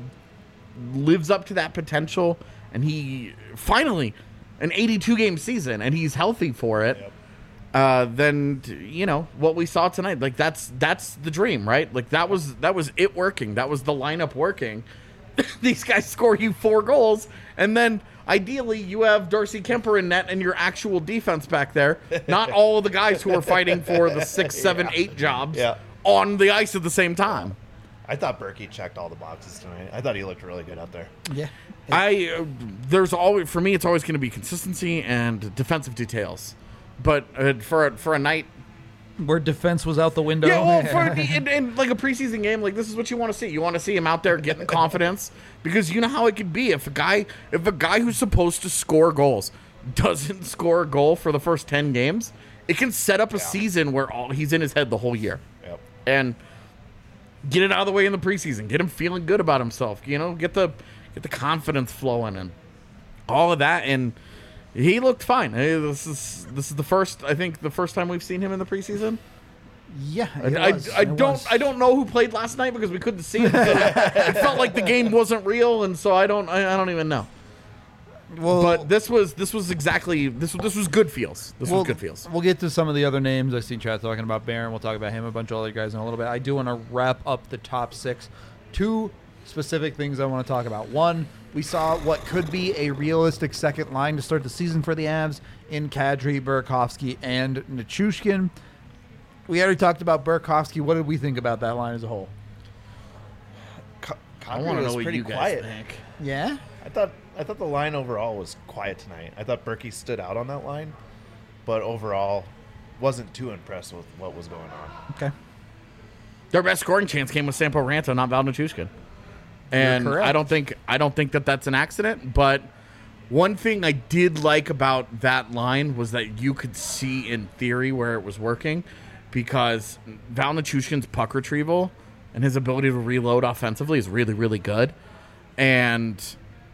Speaker 3: lives up to that potential and he finally an eighty-two game season and he's healthy for it,
Speaker 5: Yep.
Speaker 3: uh, then you know what we saw tonight. Like that's that's the dream, right? Like that was that was it working. That was the lineup working. These guys score you four goals, and then ideally you have Darcy Kemper in net and your actual defense back there. Not all of the guys who are fighting for the six, seven, eight jobs
Speaker 5: Yeah.
Speaker 3: on the ice at the same time.
Speaker 5: I thought Berkey checked all the boxes tonight. I thought he looked really good out there.
Speaker 2: yeah,
Speaker 3: I uh, there's always for me it's always going to be consistency and defensive details, but uh, for a, for a night,
Speaker 2: where defense was out the window.
Speaker 3: yeah, well, for in, in like a preseason game, like this is what you want to see. You want to see him out there getting confidence because you know how it could be if a guy if a guy who's supposed to score goals doesn't score a goal for the first ten games, it can set up a season where all he's in his head the whole year.
Speaker 5: Yep.
Speaker 3: And get it out of the way in the preseason. Get him feeling good about himself. You know, get the get the confidence flowing and all of that. And he looked fine. Hey, This is this is the first I think the first time we've seen him in the preseason.
Speaker 2: yeah,
Speaker 3: I,
Speaker 2: it
Speaker 3: I,
Speaker 2: was,
Speaker 3: I
Speaker 2: it
Speaker 3: don't
Speaker 2: was.
Speaker 3: I don't know who played last night because we couldn't see him. So it felt like the game wasn't real, and so I don't I, I don't even know.
Speaker 2: Well,
Speaker 3: but this was this was exactly this this was good feels. This
Speaker 2: we'll,
Speaker 3: was good feels.
Speaker 2: We'll get to some of the other names. I see Chad talking about Baron. We'll talk about him, a bunch of other guys in a little bit. I do want to wrap up the top six. Two specific things I want to talk about. One, we saw what could be a realistic second line to start the season for the Avs in Kadri, Burakovsky, and Nichushkin. We already talked about Burakovsky. What did we think about that line as a whole?
Speaker 3: I want to know what
Speaker 5: pretty
Speaker 3: you guys
Speaker 5: quiet.
Speaker 3: think.
Speaker 2: Yeah?
Speaker 5: I thought I thought the line overall was quiet tonight. I thought Berkey stood out on that line, but overall wasn't too impressed with what was going on.
Speaker 2: Okay.
Speaker 3: Their best scoring chance came with Sampo Ranta, not Val Nichushkin. And
Speaker 2: correct.
Speaker 3: I don't think I don't think that that's an accident. But one thing I did like about that line was that you could see in theory where it was working, because Val Nichushkin's puck retrieval and his ability to reload offensively is really, really good. And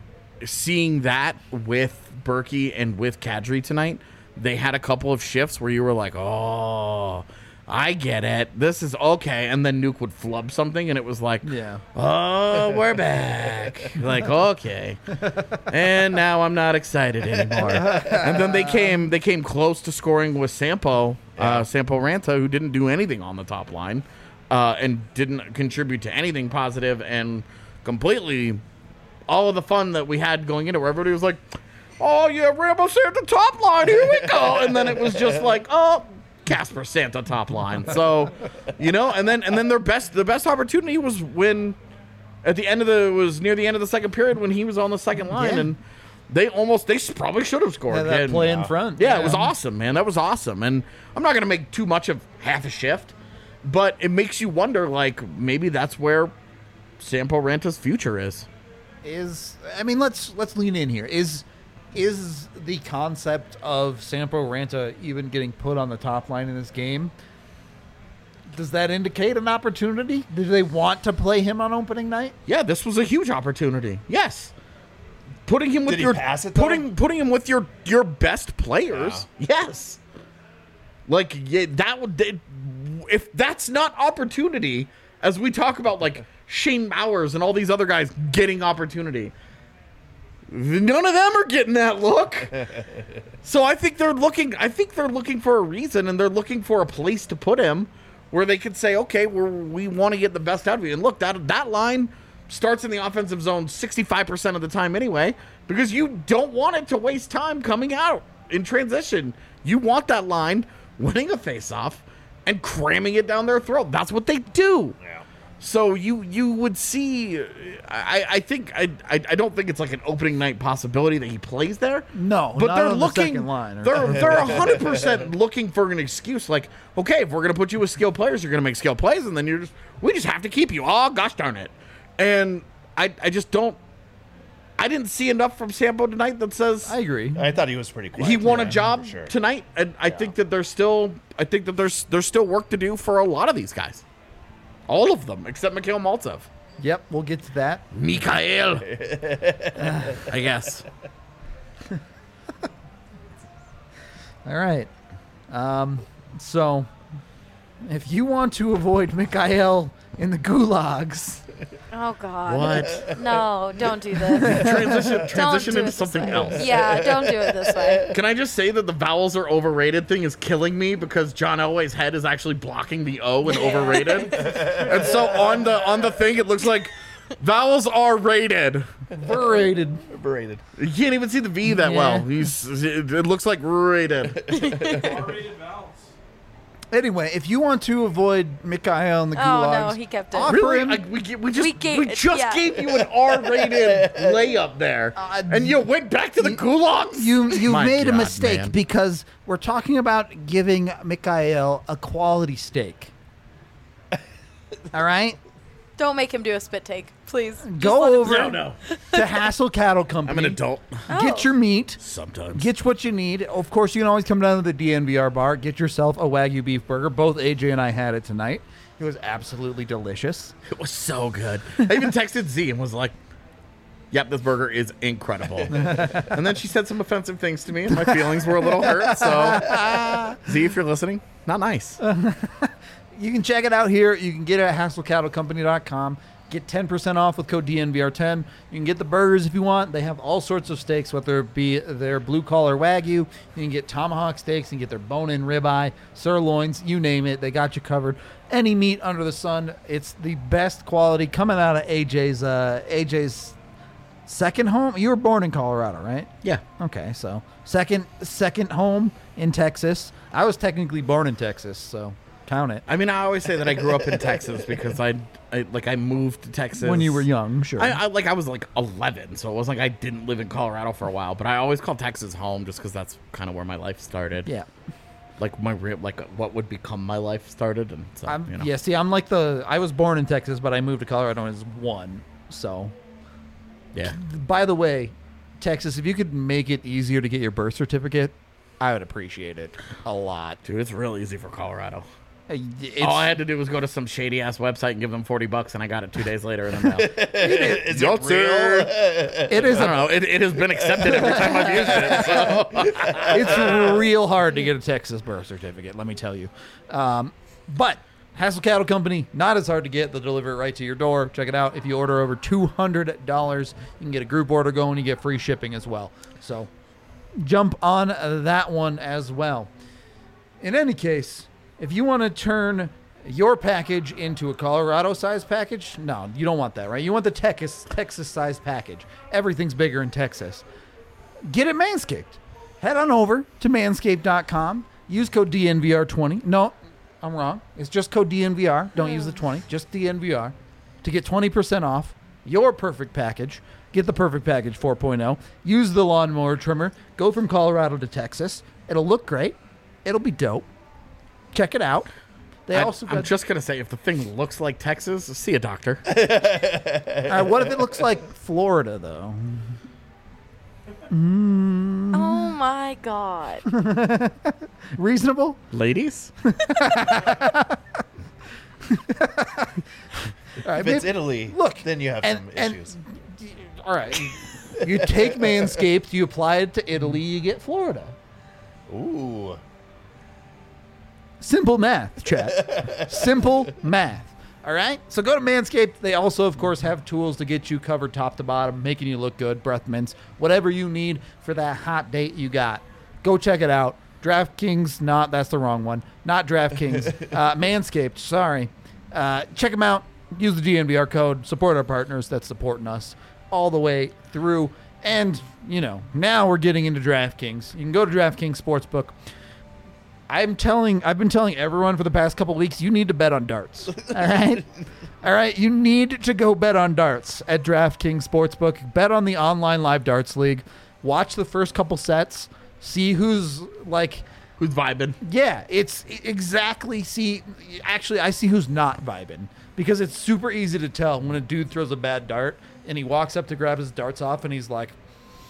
Speaker 3: seeing that with Berkey and with Kadri tonight, they had a couple of shifts where you were like, oh, I get it. This is okay. And then Nuke would flub something, and it was like,
Speaker 2: Yeah.
Speaker 3: oh, we're back. Like, okay. And now I'm not excited anymore. And then they came they came close to scoring with Sampo, uh, Sampo Ranta, who didn't do anything on the top line uh, and didn't contribute to anything positive, and completely all of the fun that we had going into where everybody was like, oh, yeah, Rambo Santa top line, here we go. And then it was just like, oh, Casper Santa top line. So, you know, and then and then their best the best opportunity was when at the end of the was near the end of the second period when he was on the second line,
Speaker 2: Yeah.
Speaker 3: and they almost they probably should have scored.
Speaker 2: Yeah, that
Speaker 3: And,
Speaker 2: play
Speaker 3: uh,
Speaker 2: in front.
Speaker 3: Yeah, it was awesome, man. That was awesome. And I'm not going to make too much of half a shift, but it makes you wonder, like, maybe that's where Sampo Ranta's future is.
Speaker 2: Is I mean, let's let's lean in here. Is is the concept of Sampo Ranta even getting put on the top line in this game? Does that indicate an opportunity? Do they want to play him on opening night?
Speaker 3: Yeah, this was a huge opportunity. Yes. Putting him with
Speaker 5: Did he
Speaker 3: your
Speaker 5: pass it, though?
Speaker 3: putting putting him with your your best players. Yes. Like yeah, that would they- if that's not opportunity, as we talk about like Shane Mowers and all these other guys getting opportunity, none of them are getting that look. So I think they're looking I think they're looking for a reason, and they're looking for a place to put him where they could say, okay, we're, we want to get the best out of you. And look, that that line starts in the offensive zone sixty-five percent of the time anyway, because you don't want it to waste time coming out in transition. You want that line winning a faceoff and cramming it down their throat. That's what they do.
Speaker 5: Yeah.
Speaker 3: So you you would see, I, I think I, I I don't think it's like an opening night possibility that he plays there.
Speaker 2: No,
Speaker 3: but
Speaker 2: not
Speaker 3: they're
Speaker 2: on the
Speaker 3: looking.
Speaker 2: second line, or-
Speaker 3: They're they're a hundred percent looking for an excuse. Like, okay, if we're gonna put you with skilled players, you're gonna make skilled plays, and then you're just we just have to keep you. Oh gosh darn it! And I I just don't. I didn't see enough from Sampo tonight that says
Speaker 2: I agree.
Speaker 5: I thought he was pretty quiet.
Speaker 3: he won a
Speaker 5: yeah,
Speaker 3: job
Speaker 5: for sure.
Speaker 3: tonight, and I think that there's still I think that there's there's still work to do for a lot of these guys. All of them, except Mikhail Maltsev.
Speaker 2: Yep, we'll get to that.
Speaker 3: Mikhail. I guess.
Speaker 2: All right. Um, so, if you want to avoid Mikhail in the gulags,
Speaker 4: Oh God.
Speaker 3: What?
Speaker 4: No, don't do this.
Speaker 3: Transition transition
Speaker 4: do
Speaker 3: into
Speaker 4: it this
Speaker 3: something
Speaker 4: way.
Speaker 3: else.
Speaker 4: Yeah, don't do it this way.
Speaker 3: Can I just say that the vowels are overrated thing is killing me because John Elway's head is actually blocking the O in overrated. And so on the on the thing it looks like vowels are rated.
Speaker 2: we're rated.
Speaker 5: Overrated.
Speaker 3: You can't even see the V that
Speaker 2: Yeah.
Speaker 3: well. He's it, it looks like rated.
Speaker 2: Anyway, if you want to avoid Mikhail in the
Speaker 4: Oh
Speaker 2: gulags,
Speaker 4: no, he kept it.
Speaker 2: offer
Speaker 3: Really?
Speaker 2: him.
Speaker 3: Like, we, ge- we just we,
Speaker 4: We gave-
Speaker 3: just
Speaker 4: yeah.
Speaker 3: gave you an R-rated layup there,
Speaker 2: Uh,
Speaker 3: and you went back to the gulags.
Speaker 2: You you
Speaker 3: My
Speaker 2: made a
Speaker 3: God,
Speaker 2: mistake
Speaker 3: man.
Speaker 2: because we're talking about giving Mikhail a quality steak. All right,
Speaker 4: Don't make him do a spit take, please. Just
Speaker 2: go
Speaker 4: let him-
Speaker 2: over
Speaker 3: no, no.
Speaker 2: to Hassel Cattle Company.
Speaker 3: I'm an adult.
Speaker 2: Get your meat.
Speaker 3: Sometimes.
Speaker 2: Get what you need. Of course, you can always come down to the D N V R bar. Get yourself a Wagyu beef burger. Both A J and I had it tonight. It was absolutely delicious.
Speaker 3: It was so good. I even texted Z and was like, yep, this burger is incredible. And then she said some offensive things to me, and my feelings were a little hurt. So, Z, if you're listening, not nice.
Speaker 2: You can check it out here. You can get it at hassel cattle company dot com. Get ten percent off with code D N V R ten. You can get the burgers if you want. They have all sorts of steaks, whether it be their blue-collar Wagyu. You can get tomahawk steaks. You can get their bone-in ribeye, sirloins, you name it. They got you covered. Any meat under the sun. It's the best quality coming out of A J's uh, A J's second home. You were born in Colorado, right?
Speaker 3: Yeah.
Speaker 2: Okay, so second second home in Texas. I was technically born in Texas, so count it.
Speaker 3: I mean, I always say that I grew up in Texas because I, I like I moved to Texas
Speaker 2: When you were young, sure.
Speaker 3: I, I like I was like eleven, so it wasn't like I didn't live in Colorado for a while. But I always call Texas home just because that's kind of where my life started.
Speaker 2: yeah.
Speaker 3: Like my real, like what would become my life started, and so
Speaker 2: I'm,
Speaker 3: you know.
Speaker 2: Yeah, see, I'm like the. I was born in Texas, but I moved to Colorado when I was one. So,
Speaker 3: Yeah.
Speaker 2: by the way, Texas, if you could make it easier to get your birth certificate, I would appreciate it a lot.
Speaker 3: Dude, it's real easy for Colorado.
Speaker 2: Uh, It's,
Speaker 3: All I had to do was go to some shady ass website and give them forty bucks, and I got it two days later in the mail.
Speaker 5: Is
Speaker 3: Yo,
Speaker 5: it
Speaker 3: sir.
Speaker 5: real?
Speaker 2: it is
Speaker 3: I don't
Speaker 2: a,
Speaker 3: know. It, it has been accepted every time I've used it. So.
Speaker 2: it's real hard to get a Texas birth certificate, let me tell you. Um, but Hassel Cattle Company, not as hard to get. They'll deliver it right to your door. Check it out. If you order over two hundred dollars, you can get a group order going. You get free shipping as well. So jump on that one as well. In any case, if you want to turn your package into a Colorado-sized package, no, you don't want that, right? You want the Texas Texas-sized package. Everything's bigger in Texas. Get it Manscaped. Head on over to manscaped dot com. Use code D N V R twenty. No, I'm wrong. It's just code D N V R. Don't use the twenty. Just D N V R to get twenty percent off your perfect package. Get the perfect package four point oh. Use the lawnmower trimmer. Go from Colorado to Texas. It'll look great. It'll be dope. Check it out. They
Speaker 3: I,
Speaker 2: also
Speaker 3: I'm
Speaker 2: got.
Speaker 3: just gonna say, if the thing looks like Texas, see a doctor.
Speaker 2: All right, what if it looks like Florida though? Mm,
Speaker 4: Oh my god.
Speaker 2: reasonable?
Speaker 3: Ladies,
Speaker 2: All right,
Speaker 5: If it's
Speaker 2: maybe-
Speaker 5: Italy,
Speaker 2: look,
Speaker 5: then you have
Speaker 2: and-
Speaker 5: some
Speaker 2: and-
Speaker 5: issues.
Speaker 2: all right. You take Manscaped, you apply it to Italy, you get Florida.
Speaker 5: Ooh.
Speaker 2: Simple math, chat. Simple math. All right? So go to Manscaped. They also, of course, have tools to get you covered top to bottom, making you look good, breath mints, whatever you need for that hot date you got. Go check it out. DraftKings, not, that's the wrong one. Not DraftKings. uh, Manscaped, sorry. Uh, check them out. Use the D N V R code. Support our partners that's supporting us all the way through. And, you know, now we're getting into DraftKings. You can go to DraftKings Sportsbook. I'm telling, I've been telling everyone for the past couple weeks, you need to bet on darts. All right? All right? You need to go bet on darts at DraftKings Sportsbook. Bet on the online live darts league. Watch the first couple sets. See who's like,
Speaker 3: who's vibing?
Speaker 2: yeah, it's exactly, see, actually, I see who's not vibing. Because it's super easy to tell when a dude throws a bad dart and he walks up to grab his darts off and he's like,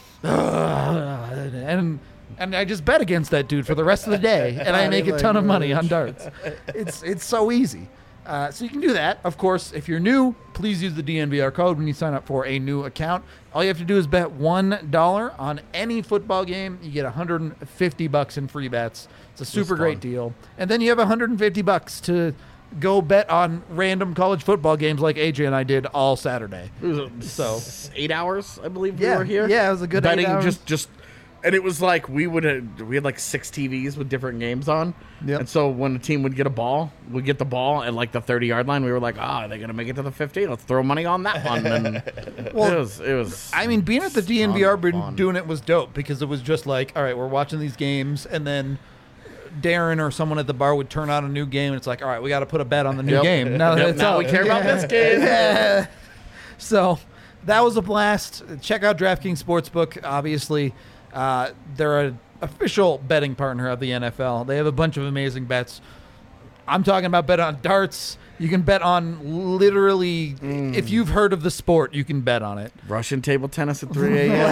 Speaker 2: "Ugh," and and I just bet against that dude for the rest of the day, and I make a ton of money on darts. It's it's so easy. Uh, so you can do that. Of course, if you're new, please use the D N V R code when you sign up for a new account. All you have to do is bet one dollar on any football game. You get one hundred fifty bucks in free bets. It's a super great
Speaker 3: fun.
Speaker 2: deal. And then you have one hundred fifty bucks to go bet on random college football games like A J and I did all Saturday.
Speaker 3: It was uh,
Speaker 2: So-
Speaker 3: s- eight hours, I believe
Speaker 2: Yeah,
Speaker 3: we were here.
Speaker 2: yeah, it was a good eight
Speaker 3: betting.
Speaker 2: hours.
Speaker 3: Just, just, and it was like we would have, we had like six T Vs with different games on.
Speaker 2: Yep.
Speaker 3: And so when the team would get a ball, we'd get the ball at like the thirty yard line. We were like, ah, oh, are they gonna make it to the fifty? Let's throw money on that one. And
Speaker 2: Well,
Speaker 3: it was, it was.
Speaker 2: I mean, being at the D N V R,
Speaker 3: ton of
Speaker 2: been
Speaker 3: fun.
Speaker 2: doing it was dope because it was just like, all right, we're watching these games, and then Darren or someone at the bar would turn on a new game, and it's like, all right, we got to put a bet on the new
Speaker 3: Yep.
Speaker 2: game. Now, that
Speaker 3: Yep,
Speaker 2: it's
Speaker 3: now
Speaker 2: out.
Speaker 3: we care about this game.
Speaker 2: Yeah. So that was a blast. Check out DraftKings Sportsbook. Obviously, uh, they're an official betting partner of the N F L. They have a bunch of amazing bets. I'm talking about bet on darts. You can bet on literally,
Speaker 3: Mm.
Speaker 2: if you've heard of the sport, you can bet on it.
Speaker 3: Russian table tennis at three a.m.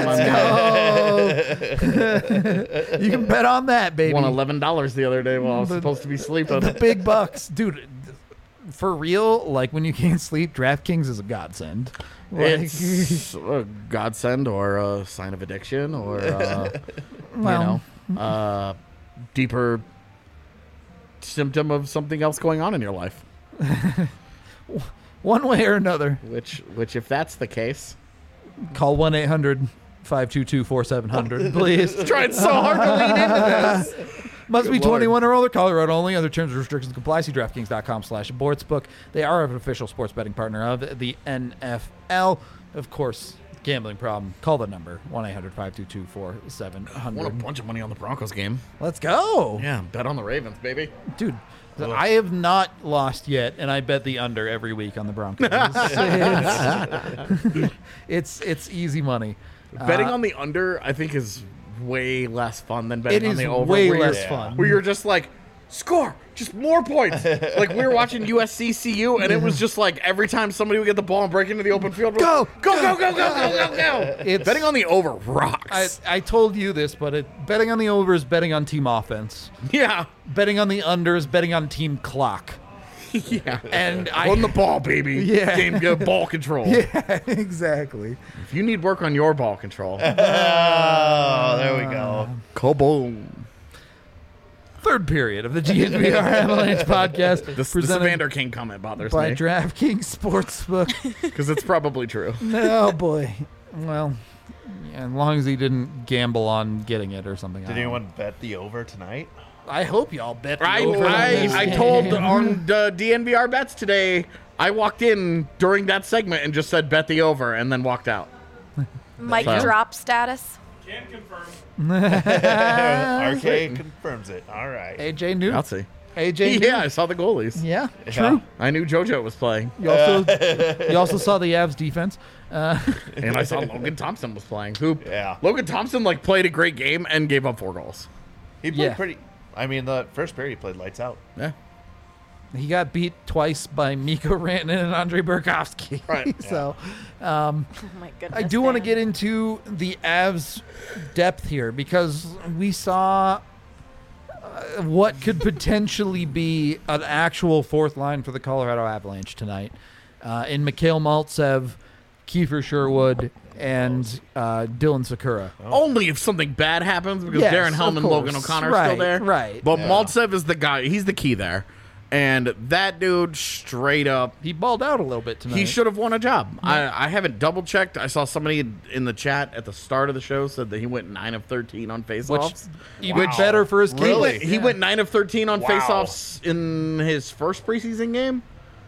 Speaker 2: Let's go. You can bet on that, baby.
Speaker 3: Won eleven dollars the other day while I was
Speaker 2: The-
Speaker 3: supposed to be sleeping.
Speaker 2: The big bucks, dude. For real, like when you can't sleep, DraftKings is a godsend. Like,
Speaker 3: It's a godsend or a sign of addiction or uh,
Speaker 2: well,
Speaker 3: you know, uh, deeper symptom of something else going on in your life.
Speaker 2: one way or another.
Speaker 3: Which, which, if that's the case,
Speaker 2: Call one eight hundred five two two four seven zero zero, please.
Speaker 3: trying so hard to lean into this.
Speaker 2: Must
Speaker 3: Good
Speaker 2: be
Speaker 3: Lord.
Speaker 2: twenty-one or older, Colorado only. Other terms and restrictions apply. See DraftKings.com slash sportsbook. They are an official sports betting partner of the N F L. Of course, gambling problem. Call the number, one eight hundred five two two four seven zero
Speaker 3: I won a
Speaker 2: zero.
Speaker 3: bunch of money on the Broncos game.
Speaker 2: Let's go.
Speaker 3: Yeah, bet on the Ravens, baby.
Speaker 2: Dude, I have not lost yet, and I bet the under every week on the Broncos. it's, it's, it's easy money.
Speaker 3: Betting
Speaker 2: Uh,
Speaker 3: on the under, I think, is way less fun than betting
Speaker 2: It
Speaker 3: on
Speaker 2: is
Speaker 3: the over.
Speaker 2: way
Speaker 3: where you're-
Speaker 2: less fun.
Speaker 3: Where you're just like, score, just more points. Like we were watching U S C C U, and it was just like every time somebody would get the ball and break into the open field,
Speaker 2: Go,
Speaker 3: go, go, go, go, go, go, go.
Speaker 2: It's-
Speaker 3: Betting on the over rocks.
Speaker 2: I, I told you this, but it, betting on the over is betting on team offense.
Speaker 3: yeah,
Speaker 2: Betting on the under is betting on team clock.
Speaker 3: yeah.
Speaker 2: And I
Speaker 3: On the ball, baby.
Speaker 2: Yeah.
Speaker 3: Game good ball control.
Speaker 2: Yeah, exactly.
Speaker 3: If you need work on your ball control,
Speaker 5: Oh, there we go.
Speaker 3: kaboom.
Speaker 2: Third period of the G N V R Avalanche podcast,
Speaker 3: This, this
Speaker 2: presented
Speaker 3: Evander King comment bothers
Speaker 2: by
Speaker 3: me
Speaker 2: DraftKings Sportsbook.
Speaker 3: because it's probably true.
Speaker 2: Oh boy. Well, yeah, as long as he didn't gamble on getting it or something. I
Speaker 5: Did
Speaker 2: don't
Speaker 5: anyone bet the over tonight?
Speaker 2: know. I hope y'all bet the
Speaker 3: I
Speaker 2: over on this
Speaker 3: I, I
Speaker 2: game.
Speaker 3: told on the D N V R bets today. I walked in during that segment and just said bet the over, and then walked out.
Speaker 4: Mic
Speaker 3: So-
Speaker 4: drop status.
Speaker 6: Can confirm.
Speaker 5: R K confirms it. All right.
Speaker 2: A J knew.
Speaker 3: I'll see.
Speaker 2: A J knew.
Speaker 3: Yeah, I saw the goalies.
Speaker 2: Yeah,
Speaker 5: Yeah.
Speaker 2: true.
Speaker 3: I knew JoJo was playing,
Speaker 2: You also you also saw the Avs defense. Uh,
Speaker 3: and I saw Logan Thompson was playing. Who?
Speaker 5: Yeah.
Speaker 3: Logan Thompson like played a great game and gave up four goals.
Speaker 5: He played
Speaker 2: Yeah.
Speaker 5: pretty. I mean, the first period he played lights out.
Speaker 3: Yeah.
Speaker 2: he got beat twice by Mikko Rantanen and Andrei Burakovsky.
Speaker 3: Right.
Speaker 2: so um,
Speaker 4: Oh my goodness.
Speaker 2: I do want to
Speaker 4: Dan.
Speaker 2: get into the Avs depth here because we saw uh, what could potentially be an actual fourth line for the Colorado Avalanche tonight uh, in Mikhail Maltsev, Kiefer Sherwood, and uh, Dylan Sakura.
Speaker 3: Only if something bad happens because
Speaker 2: Yes,
Speaker 3: Darren
Speaker 2: of
Speaker 3: Helm and Logan
Speaker 2: course.
Speaker 3: O'Connor are
Speaker 2: Right,
Speaker 3: still there.
Speaker 2: right.
Speaker 3: But
Speaker 5: Yeah.
Speaker 3: Maltsev is the guy. He's the key there. And that dude straight up,
Speaker 2: He balled out a little bit tonight.
Speaker 3: he should have won a job. I, I haven't double checked. I saw somebody in the chat at the start of the show said that he went nine of thirteen on
Speaker 2: which
Speaker 3: faceoffs.
Speaker 2: even
Speaker 5: Wow.
Speaker 2: better for his
Speaker 3: He
Speaker 2: case.
Speaker 3: went, he
Speaker 2: Yeah.
Speaker 3: went nine of thirteen on
Speaker 5: Wow.
Speaker 3: faceoffs in his first preseason game.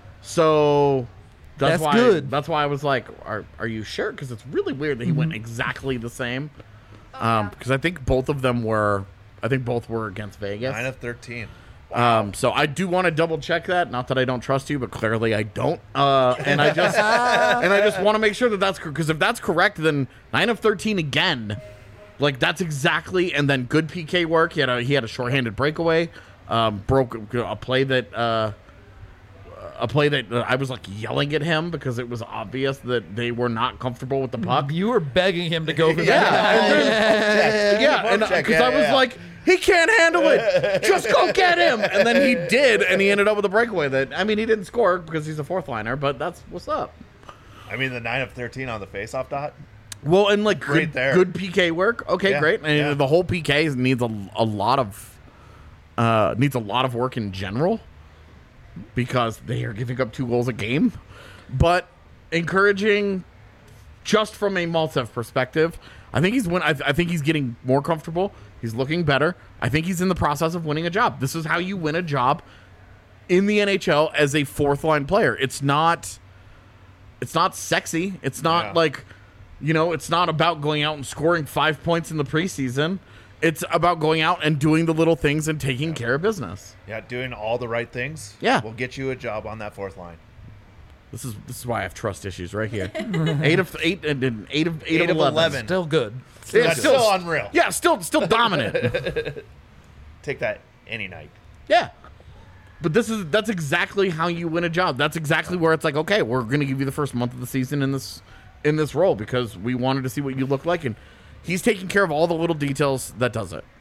Speaker 3: So that's,
Speaker 2: That's
Speaker 3: why
Speaker 2: good.
Speaker 3: that's why I was like, are are you sure? Because it's really weird that he went exactly the same. Um, because I think both of them were, I think both were against Vegas.
Speaker 5: Nine of thirteen.
Speaker 3: Um, so I do want to double check that. Not that I don't trust you, but clearly I don't. Uh, and I just and I just want to make sure that that's because if that's correct, then nine of thirteen again. Like that's exactly. And then good P K work. He had a he had a shorthanded breakaway. Um, broke a play that uh, a play that uh, I was like yelling at him because it was obvious that they were not comfortable with the puck.
Speaker 2: You were begging him to go for
Speaker 3: Yeah,
Speaker 2: that.
Speaker 3: and then- yeah, and
Speaker 5: check,
Speaker 3: because
Speaker 5: yeah,
Speaker 3: I was
Speaker 5: yeah.
Speaker 3: like, he can't handle it. Just go get him. And then he did, and he ended up with a breakaway. That I mean, he didn't score because he's a fourth liner, but that's what's up.
Speaker 5: I mean, the nine of thirteen on the faceoff dot.
Speaker 3: Well, and like
Speaker 5: Right
Speaker 3: good,
Speaker 5: there.
Speaker 3: good P K work. Okay,
Speaker 5: Yeah,
Speaker 3: great. And
Speaker 5: yeah.
Speaker 3: the whole P K needs a, a lot of uh, needs a lot of work in general because they are giving up two goals a game. But encouraging, just from a Maltsev perspective, I think he's win. I, I think he's getting more comfortable. He's looking better. I think he's in the process of winning a job. This is how you win a job in the N H L as a fourth line player. It's not. It's not sexy. It's not
Speaker 5: Yeah.
Speaker 3: like, you know, it's not about going out and scoring five points in the preseason. It's about going out and doing the little things and taking care of business.
Speaker 5: Yeah, doing all the right things.
Speaker 3: Yeah.
Speaker 5: will get you a job on that fourth line.
Speaker 3: This is this is why I have trust issues right here. eight of eight and and eight of eight,
Speaker 5: Eight
Speaker 3: of
Speaker 5: of
Speaker 3: eleven.
Speaker 5: eleven.
Speaker 2: Still good.
Speaker 3: Yeah,
Speaker 5: That's
Speaker 3: still-
Speaker 5: still unreal.
Speaker 3: Yeah, still still dominant.
Speaker 5: Take that any night.
Speaker 3: Yeah. But this is that's exactly how you win a job. That's exactly where it's like, okay, we're gonna give you the first month of the season in this in this role because we wanted to see what you look like, and he's taking care of all the little details that does it.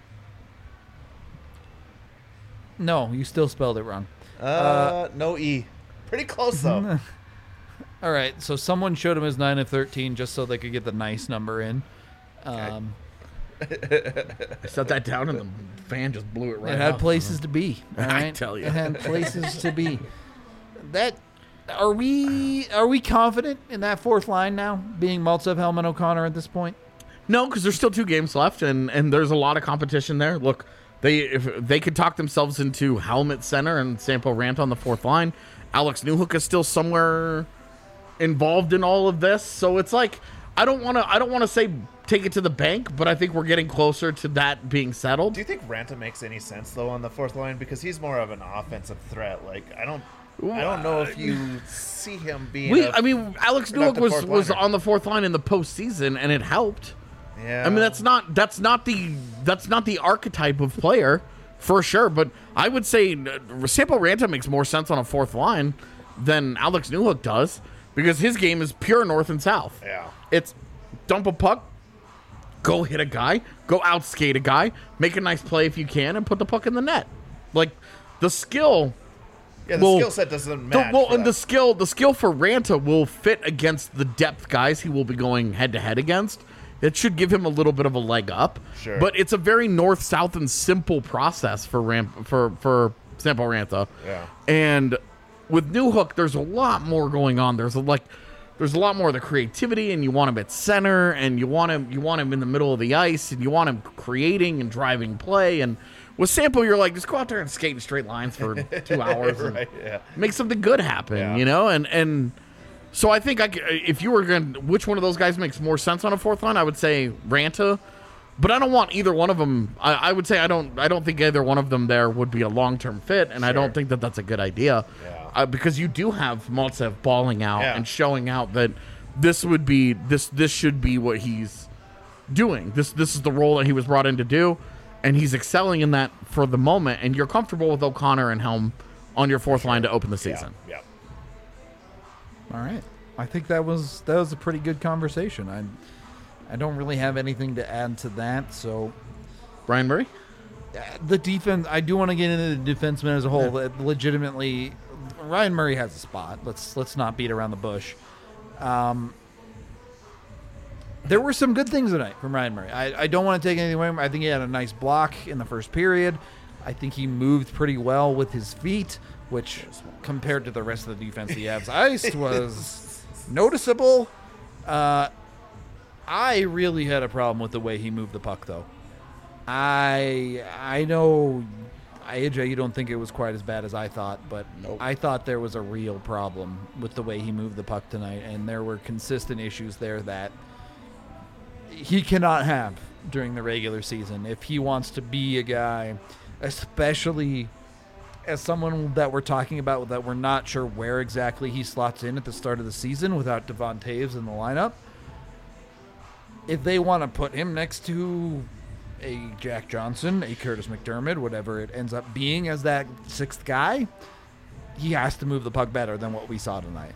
Speaker 2: No, you still spelled it wrong.
Speaker 5: Uh, no E. Pretty close though.
Speaker 2: All right, so someone showed him his nine of thirteen just so they could get the nice number in. Um,
Speaker 3: I set that down and the fan just blew it right
Speaker 2: it had
Speaker 3: out.
Speaker 2: places to be. All
Speaker 3: I
Speaker 2: right?
Speaker 3: tell ya.
Speaker 2: It had places to be. That Are we are we confident in that fourth line now, being Maltsev, Hellman, O'Connor at this point?
Speaker 3: No, because there's still two games left, and, and there's a lot of competition there. Look, they if they could talk themselves into Helmet center and Sampo Ranta on the fourth line. Alex Newhook is still somewhere involved in all of this, so it's like I don't want to I don't want to say take it to the bank, but I think we're getting closer to that being settled.
Speaker 5: Do you think Ranta makes any sense though on the fourth line, because he's more of an offensive threat? Like I don't, I don't know if you see him being.
Speaker 3: We,
Speaker 5: a
Speaker 3: I mean, Alex
Speaker 5: productive
Speaker 3: Newhook was
Speaker 5: fourth
Speaker 3: was
Speaker 5: liner.
Speaker 3: on the fourth line in the postseason, and it helped.
Speaker 5: Yeah.
Speaker 3: I mean, that's not that's not the that's not the archetype of player for sure. But I would say uh, Sampo Ranta makes more sense on a fourth line than Alex Newhook does, because his game is pure north and south.
Speaker 5: Yeah.
Speaker 3: It's dump a puck, go hit a guy, go outskate a guy, make a nice play if you can, and put the puck in the net. Like the skill.
Speaker 5: Yeah, the
Speaker 3: Well,
Speaker 5: skill set doesn't
Speaker 3: The,
Speaker 5: match.
Speaker 3: well,
Speaker 5: for
Speaker 3: and the
Speaker 5: that.
Speaker 3: skill, the skill for Ranta will fit against the depth guys he will be going head to head against. It should give him a little bit of a leg up.
Speaker 5: Sure.
Speaker 3: But it's a very north, south, and simple process for Ram for for Sampo Ranta.
Speaker 5: Yeah.
Speaker 3: And with Newhook, there's a lot more going on. There's a, like, there's a lot more of the creativity, and you want him at center, and you want him, you want him in the middle of the ice, and you want him creating and driving play. And with Sampo, you're like, just go out there and skate in straight lines for two hours. and
Speaker 5: Right, yeah.
Speaker 3: Make something good happen,
Speaker 5: Yeah.
Speaker 3: you know? And and so I think I c if you were going to, which one of those guys makes more sense on a fourth line, I would say Ranta. But I don't want either one of them. I, I would say I don't I don't think either one of them there would be a long-term fit, and I don't think that that's a good idea.
Speaker 5: Yeah.
Speaker 3: Uh, because you do have Maltsev balling out
Speaker 5: Yeah.
Speaker 3: and showing out that this would be, this this should be what he's doing. This This is the role that he was brought in to do, and he's excelling in that for the moment, and you're comfortable with O'Connor and Helm on your fourth line to open the season.
Speaker 5: Yeah. yeah.
Speaker 2: All right. I think that was that was a pretty good conversation. I I don't really have anything to add to that. So
Speaker 3: Brian Murray?
Speaker 2: uh, the defense, I do want to get into the defenseman as a whole. That legitimately, Ryan Murray has a spot. Let's let's not beat around the bush. Um, there were some good things tonight from Ryan Murray. I, I don't want to take anything away from him. I think he had a nice block in the first period. I think he moved pretty well with his feet, which compared to the rest of the defense the Avs iced was noticeable. Uh, I really had a problem with the way he moved the puck, though. I I know, A J, you don't think it was quite as bad as I thought, but I thought there was a real problem with the way he moved the puck tonight, and there were consistent issues there that he cannot have during the regular season if he wants to be a guy, especially as someone that we're talking about that we're not sure where exactly he slots in at the start of the season without Devon Taves in the lineup. If they want to put him next to a Jack Johnson, a Curtis McDermott, whatever it ends up being as that sixth guy, he has to move the puck better than what we saw tonight.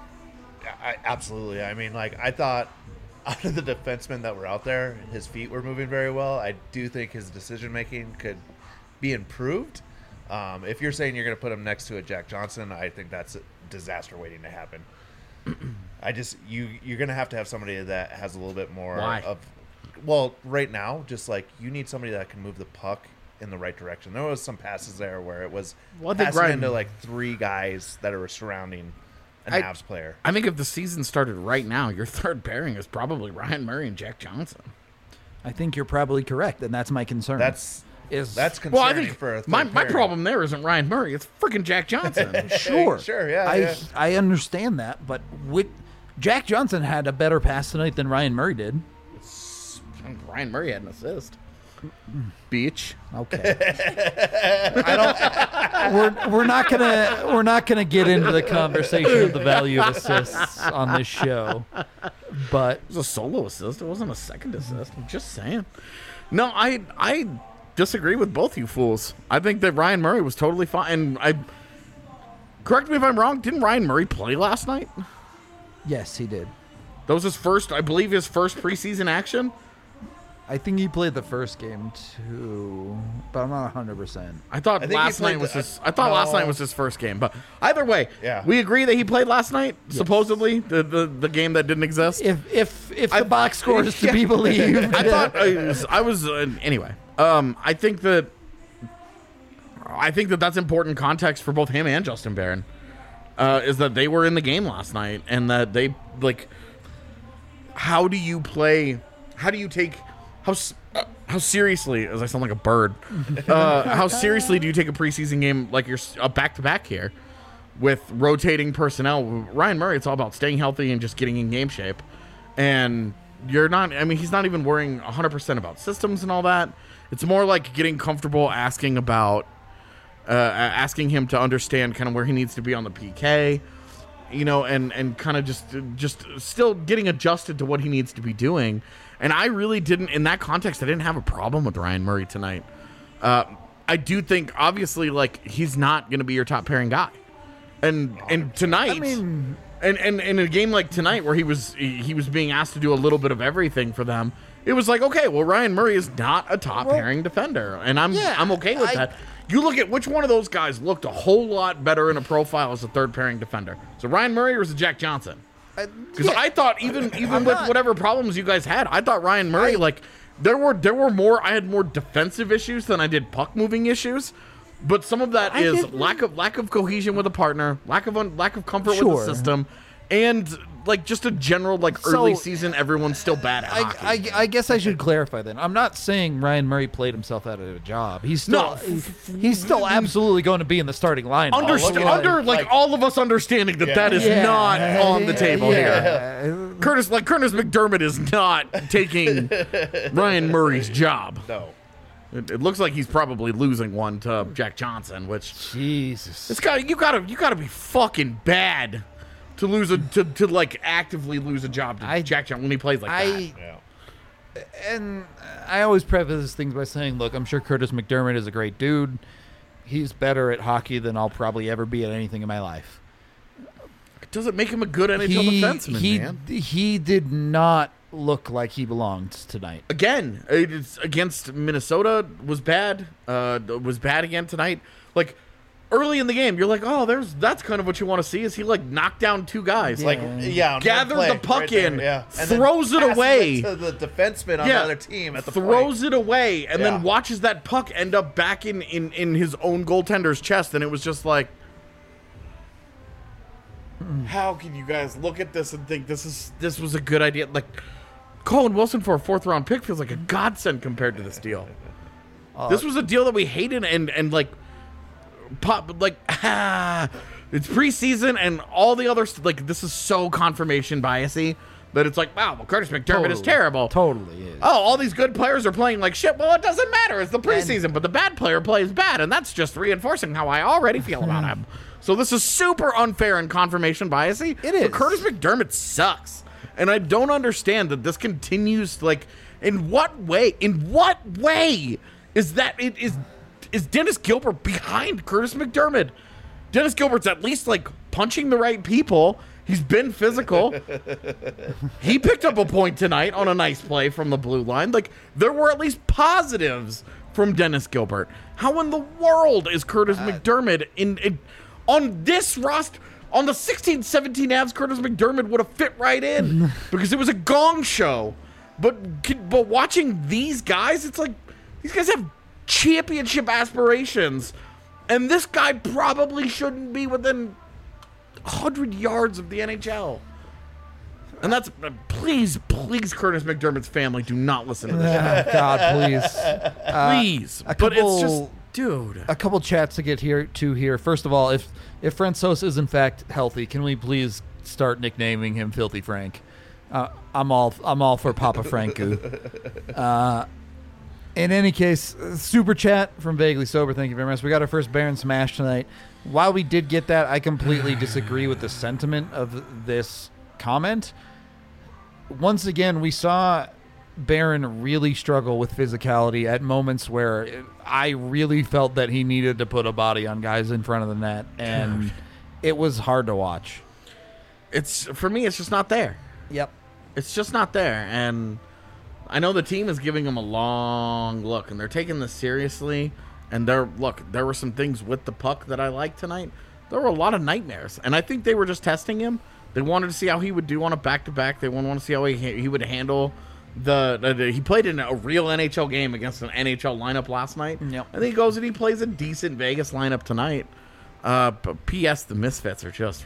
Speaker 5: I, absolutely. I mean, like, I thought out of the defensemen that were out there, his feet were moving very well. I do think his decision-making could be improved. Um, if you're saying you're going to put him next to a Jack Johnson, I think that's a disaster waiting to happen. I just, you, you're going to have to have somebody that has a little bit more
Speaker 3: Why?
Speaker 5: of, well, right now, just like you need somebody that can move the puck in the right direction. There was some passes there where it was
Speaker 3: Well, I think
Speaker 5: passing
Speaker 3: Ryan-
Speaker 5: into like three guys that are surrounding an
Speaker 3: I-
Speaker 5: Avs player.
Speaker 3: I think if the season started right now, your third pairing is probably Ryan Murray and Jack Johnson.
Speaker 2: I think you're probably correct, and that's my concern.
Speaker 5: That's
Speaker 2: is
Speaker 5: that's concerning
Speaker 3: Well, I think
Speaker 5: for a third
Speaker 3: my, my
Speaker 5: pairing.
Speaker 3: problem there isn't Ryan Murray. It's freaking Jack Johnson.
Speaker 2: sure,
Speaker 5: Sure, yeah,
Speaker 2: I
Speaker 5: yeah.
Speaker 2: I understand that, but with Jack Johnson had a better pass tonight than Ryan Murray did.
Speaker 3: Ryan Murray had an assist. Beach.
Speaker 2: Okay. I don't. We're we're not gonna we're not gonna get into the conversation of the value of assists on this show, but
Speaker 3: It was a solo assist. It wasn't a second assist. I'm just saying. No, I I disagree with both you fools. I think that Ryan Murray was totally fine. And I correct me if I'm wrong. Didn't Ryan Murray play last night?
Speaker 2: yes, he did.
Speaker 3: That was his first, I believe, his first preseason action.
Speaker 2: I think he played the first game too, but I'm not one hundred percent.
Speaker 3: I thought
Speaker 5: I think he
Speaker 3: last
Speaker 5: played
Speaker 3: night was
Speaker 5: the-
Speaker 3: his. I thought last
Speaker 5: no.
Speaker 3: night was his first game. But either way,
Speaker 5: Yeah.
Speaker 3: we agree that he played last night. Supposedly, the, the the game that didn't exist.
Speaker 2: If if if
Speaker 3: I-
Speaker 2: the box score is to
Speaker 3: Yeah.
Speaker 2: be believed,
Speaker 3: I thought I was, I was uh, anyway. Um, I think that I think that that's important context for both him and Justin Barron. uh, is that they were in the game last night, and that they like. How do you play? How do you take how s- uh, how seriously? As I sound like a bird, uh, how seriously do you take a preseason game like you're a back to back here with rotating personnel? Ryan Murray, it's all about staying healthy and just getting in game shape, and you're not. I mean, he's not even worrying one hundred percent about systems and all that. It's more like getting comfortable asking about, uh, asking him to understand kind of where he needs to be on the P K. You know, and, and kind of just just still getting adjusted to what he needs to be doing. And I really didn't, in that context, I didn't have a problem with Ryan Murray tonight. Uh, I do think, obviously, like, he's not going to be your top pairing guy. And and tonight,
Speaker 2: I mean,
Speaker 3: and, and, and in a game like tonight where he was he was being asked to do a little bit of everything for them, it was like, okay, well, Ryan Murray is not a top pairing defender. And I'm
Speaker 2: yeah,
Speaker 3: I'm okay with
Speaker 2: I-
Speaker 3: that. You look at which one of those guys looked a whole lot better in a profile as a third pairing defender. So Ryan Murray or was it Jack Johnson? Because
Speaker 2: yeah.
Speaker 3: I thought even even
Speaker 2: I'm
Speaker 3: with
Speaker 2: not-
Speaker 3: whatever problems you guys had, I thought Ryan Murray like there were there were more I had more defensive issues than I did puck moving issues. But some of that
Speaker 2: I
Speaker 3: is
Speaker 2: didn't-
Speaker 3: lack of lack of cohesion with a partner, lack of un, lack of comfort with
Speaker 2: Sure.
Speaker 3: the system, and like just a general like early
Speaker 2: So-
Speaker 3: season everyone's still bad at hockey.
Speaker 2: I, I, I guess I should clarify then. I'm not saying Ryan Murray played himself out of a job. He's still
Speaker 3: No.
Speaker 2: he- he's still absolutely going to be in the starting lineup.
Speaker 3: Understand,
Speaker 5: look at it.
Speaker 3: under like,
Speaker 5: Like-
Speaker 3: all of us understanding that
Speaker 5: Yeah.
Speaker 3: that is
Speaker 2: Yeah.
Speaker 3: not on the table here.
Speaker 2: yeah.
Speaker 3: Curtis, like Curtis McDermott is not taking Ryan Murray's job.
Speaker 5: No.
Speaker 3: It, it looks like he's probably losing one to Jack Johnson, which
Speaker 2: Jesus.
Speaker 3: it's got you gotta you gotta be fucking bad to lose a to, to like actively lose a job to
Speaker 2: I-
Speaker 3: Jack Johnson when he plays like that.
Speaker 2: I
Speaker 5: Yeah.
Speaker 2: and I always preface things by saying, look, I'm sure Curtis McDermott is a great dude. He's better at hockey than I'll probably ever be at anything in my life.
Speaker 3: It doesn't make him a good N H L
Speaker 2: He,
Speaker 3: defenseman,
Speaker 2: he,
Speaker 3: man.
Speaker 2: he did not look like he belonged tonight.
Speaker 3: Again, it's against Minnesota was bad. Uh, was bad again tonight. Like early in the game, you're like, oh, there's that's kind of what you want to see. Is he like knock down two guys?
Speaker 5: Like,
Speaker 2: Yeah.
Speaker 5: yeah. on
Speaker 3: Gathered
Speaker 5: one
Speaker 3: the
Speaker 5: play,
Speaker 3: puck
Speaker 5: right there,
Speaker 3: in,
Speaker 5: yeah. And then
Speaker 3: throws it
Speaker 5: passes
Speaker 3: away.
Speaker 5: to the defenseman on
Speaker 3: Yeah.
Speaker 5: the other team at the
Speaker 3: throws
Speaker 5: point.
Speaker 3: it away and
Speaker 5: Yeah.
Speaker 3: then watches that puck end up back in, in, in his own goaltender's chest, and it was just like, how can you guys look at this and think this is this was a good idea? Like Colin Wilson for a fourth round pick feels like a godsend compared to this deal. this was a deal that we hated and and like pop like ah, it's preseason and all the other st- like this is so confirmation biasy that it's like, wow, well, Curtis McDermott is
Speaker 2: Totally.
Speaker 3: terrible.
Speaker 2: Totally is.
Speaker 3: Oh, all these good players are playing like shit. Well, it doesn't matter. It's the preseason, but the bad player plays bad, and that's just reinforcing how I already feel about him. So this is super unfair and confirmation biasy.
Speaker 2: It
Speaker 3: But
Speaker 2: is.
Speaker 3: Curtis McDermott sucks, and I don't understand that this continues. Like, in what way? In what way is that? It is is Dennis Gilbert behind Curtis McDermott? Dennis Gilbert's at least like punching the right people. He's been physical. He picked up a point tonight on a nice play from the blue line. Like, there were at least positives from Dennis Gilbert. How in the world is Curtis McDermott in, in on this roster? On the sixteen seventeen Avs, Curtis McDermott would have fit right in because it was a gong show. But but watching these guys, it's like these guys have championship aspirations, and this guy probably shouldn't be within one hundred yards of the N H L. And that's, uh, please, please, Curtis McDermott's family, do not listen to this.
Speaker 2: Oh, God, please. Uh,
Speaker 3: Please.
Speaker 2: a
Speaker 3: But it's
Speaker 2: couple-
Speaker 3: just, dude.
Speaker 2: a couple chats to get here to here. First of all, if if Francois is in fact healthy, can we please start nicknaming him Filthy Frank? Uh, I'm all I'm all for Papa Franku. Uh, in any case, uh, super chat from Vaguely Sober. Thank you very much. We got our first Baron Smash tonight. While we did get that, I completely disagree with the sentiment of this comment. Once again, we saw Baron really struggle with physicality at moments where I really felt that he needed to put a body on guys in front of the net, and it was hard to watch.
Speaker 3: It's, for me, it's just not there.
Speaker 2: Yep.
Speaker 3: It's just not there. And I know the team is giving him a long look, and they're taking this seriously. And there, look, there were some things with the puck that I liked tonight. There were a lot of nightmares, and I think they were just testing him. They wanted to see how he would do on a back-to-back. They wanted to see how he he would handle the, the, the. He played in a real N H L game against an N H L lineup last night.
Speaker 2: Yep.
Speaker 3: And then he goes and he plays a decent Vegas lineup tonight. Uh, but P S. The Misfits are just,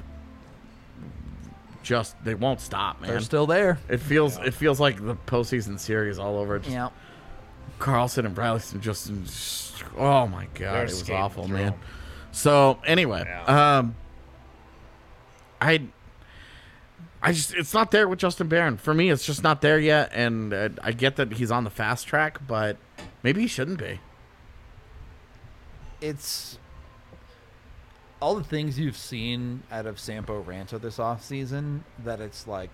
Speaker 3: just they won't stop, man.
Speaker 2: They're still there.
Speaker 3: It feels it feels like the postseason series all over. Just
Speaker 2: Yeah.
Speaker 3: Carlson and Bradley just, just oh my god,
Speaker 5: They're
Speaker 3: it was
Speaker 5: skating
Speaker 3: awful,
Speaker 5: through
Speaker 3: man.
Speaker 5: 'em.
Speaker 3: So anyway,
Speaker 5: Yeah.
Speaker 3: um, I, I just it's not there with Justin Barron. For me, it's just not there yet, and uh, I get that he's on the fast track, but maybe he shouldn't be.
Speaker 2: It's all the things you've seen out of Sampo Ranta this offseason that it's like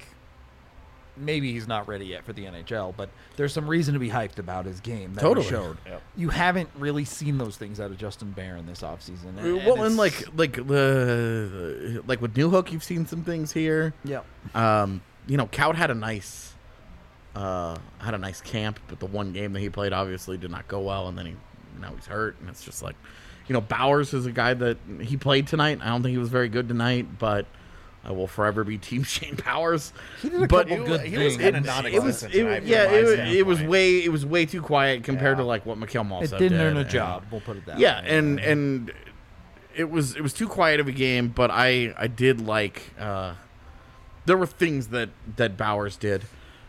Speaker 2: maybe he's not ready yet for the N H L, but there's some reason to be hyped about his game that
Speaker 3: Totally.
Speaker 2: he showed.
Speaker 5: Yep.
Speaker 2: You haven't really seen those things out of Justin Barron this offseason. And,
Speaker 3: well, and
Speaker 2: it's-
Speaker 3: like like the like with Newhook, you've seen some things here.
Speaker 2: yeah.
Speaker 3: Um, you know, Kaut had a nice, uh, had a nice camp, but the one game that he played obviously did not go well, and then he now he's hurt, and it's just like, you know, Bowers is a guy that he played tonight. I don't think he was very good tonight, but I will forever be Team Shane Powers.
Speaker 2: He did a
Speaker 3: But
Speaker 2: couple
Speaker 5: He-
Speaker 2: good
Speaker 5: he was
Speaker 2: things.
Speaker 5: kinda
Speaker 3: It was,
Speaker 5: non-existent
Speaker 3: it,
Speaker 5: tonight from
Speaker 3: yeah,
Speaker 5: my
Speaker 3: it, was- it was
Speaker 5: standpoint.
Speaker 3: way, it was way too quiet compared
Speaker 5: Yeah.
Speaker 3: to like what Mikhail Maltsev
Speaker 2: It
Speaker 3: did.
Speaker 2: didn't earn a
Speaker 3: and-
Speaker 2: job. We'll put it that
Speaker 3: Yeah,
Speaker 2: way.
Speaker 3: and and it was it was too quiet of a game, but I I did like uh, there were things that that Bowers did,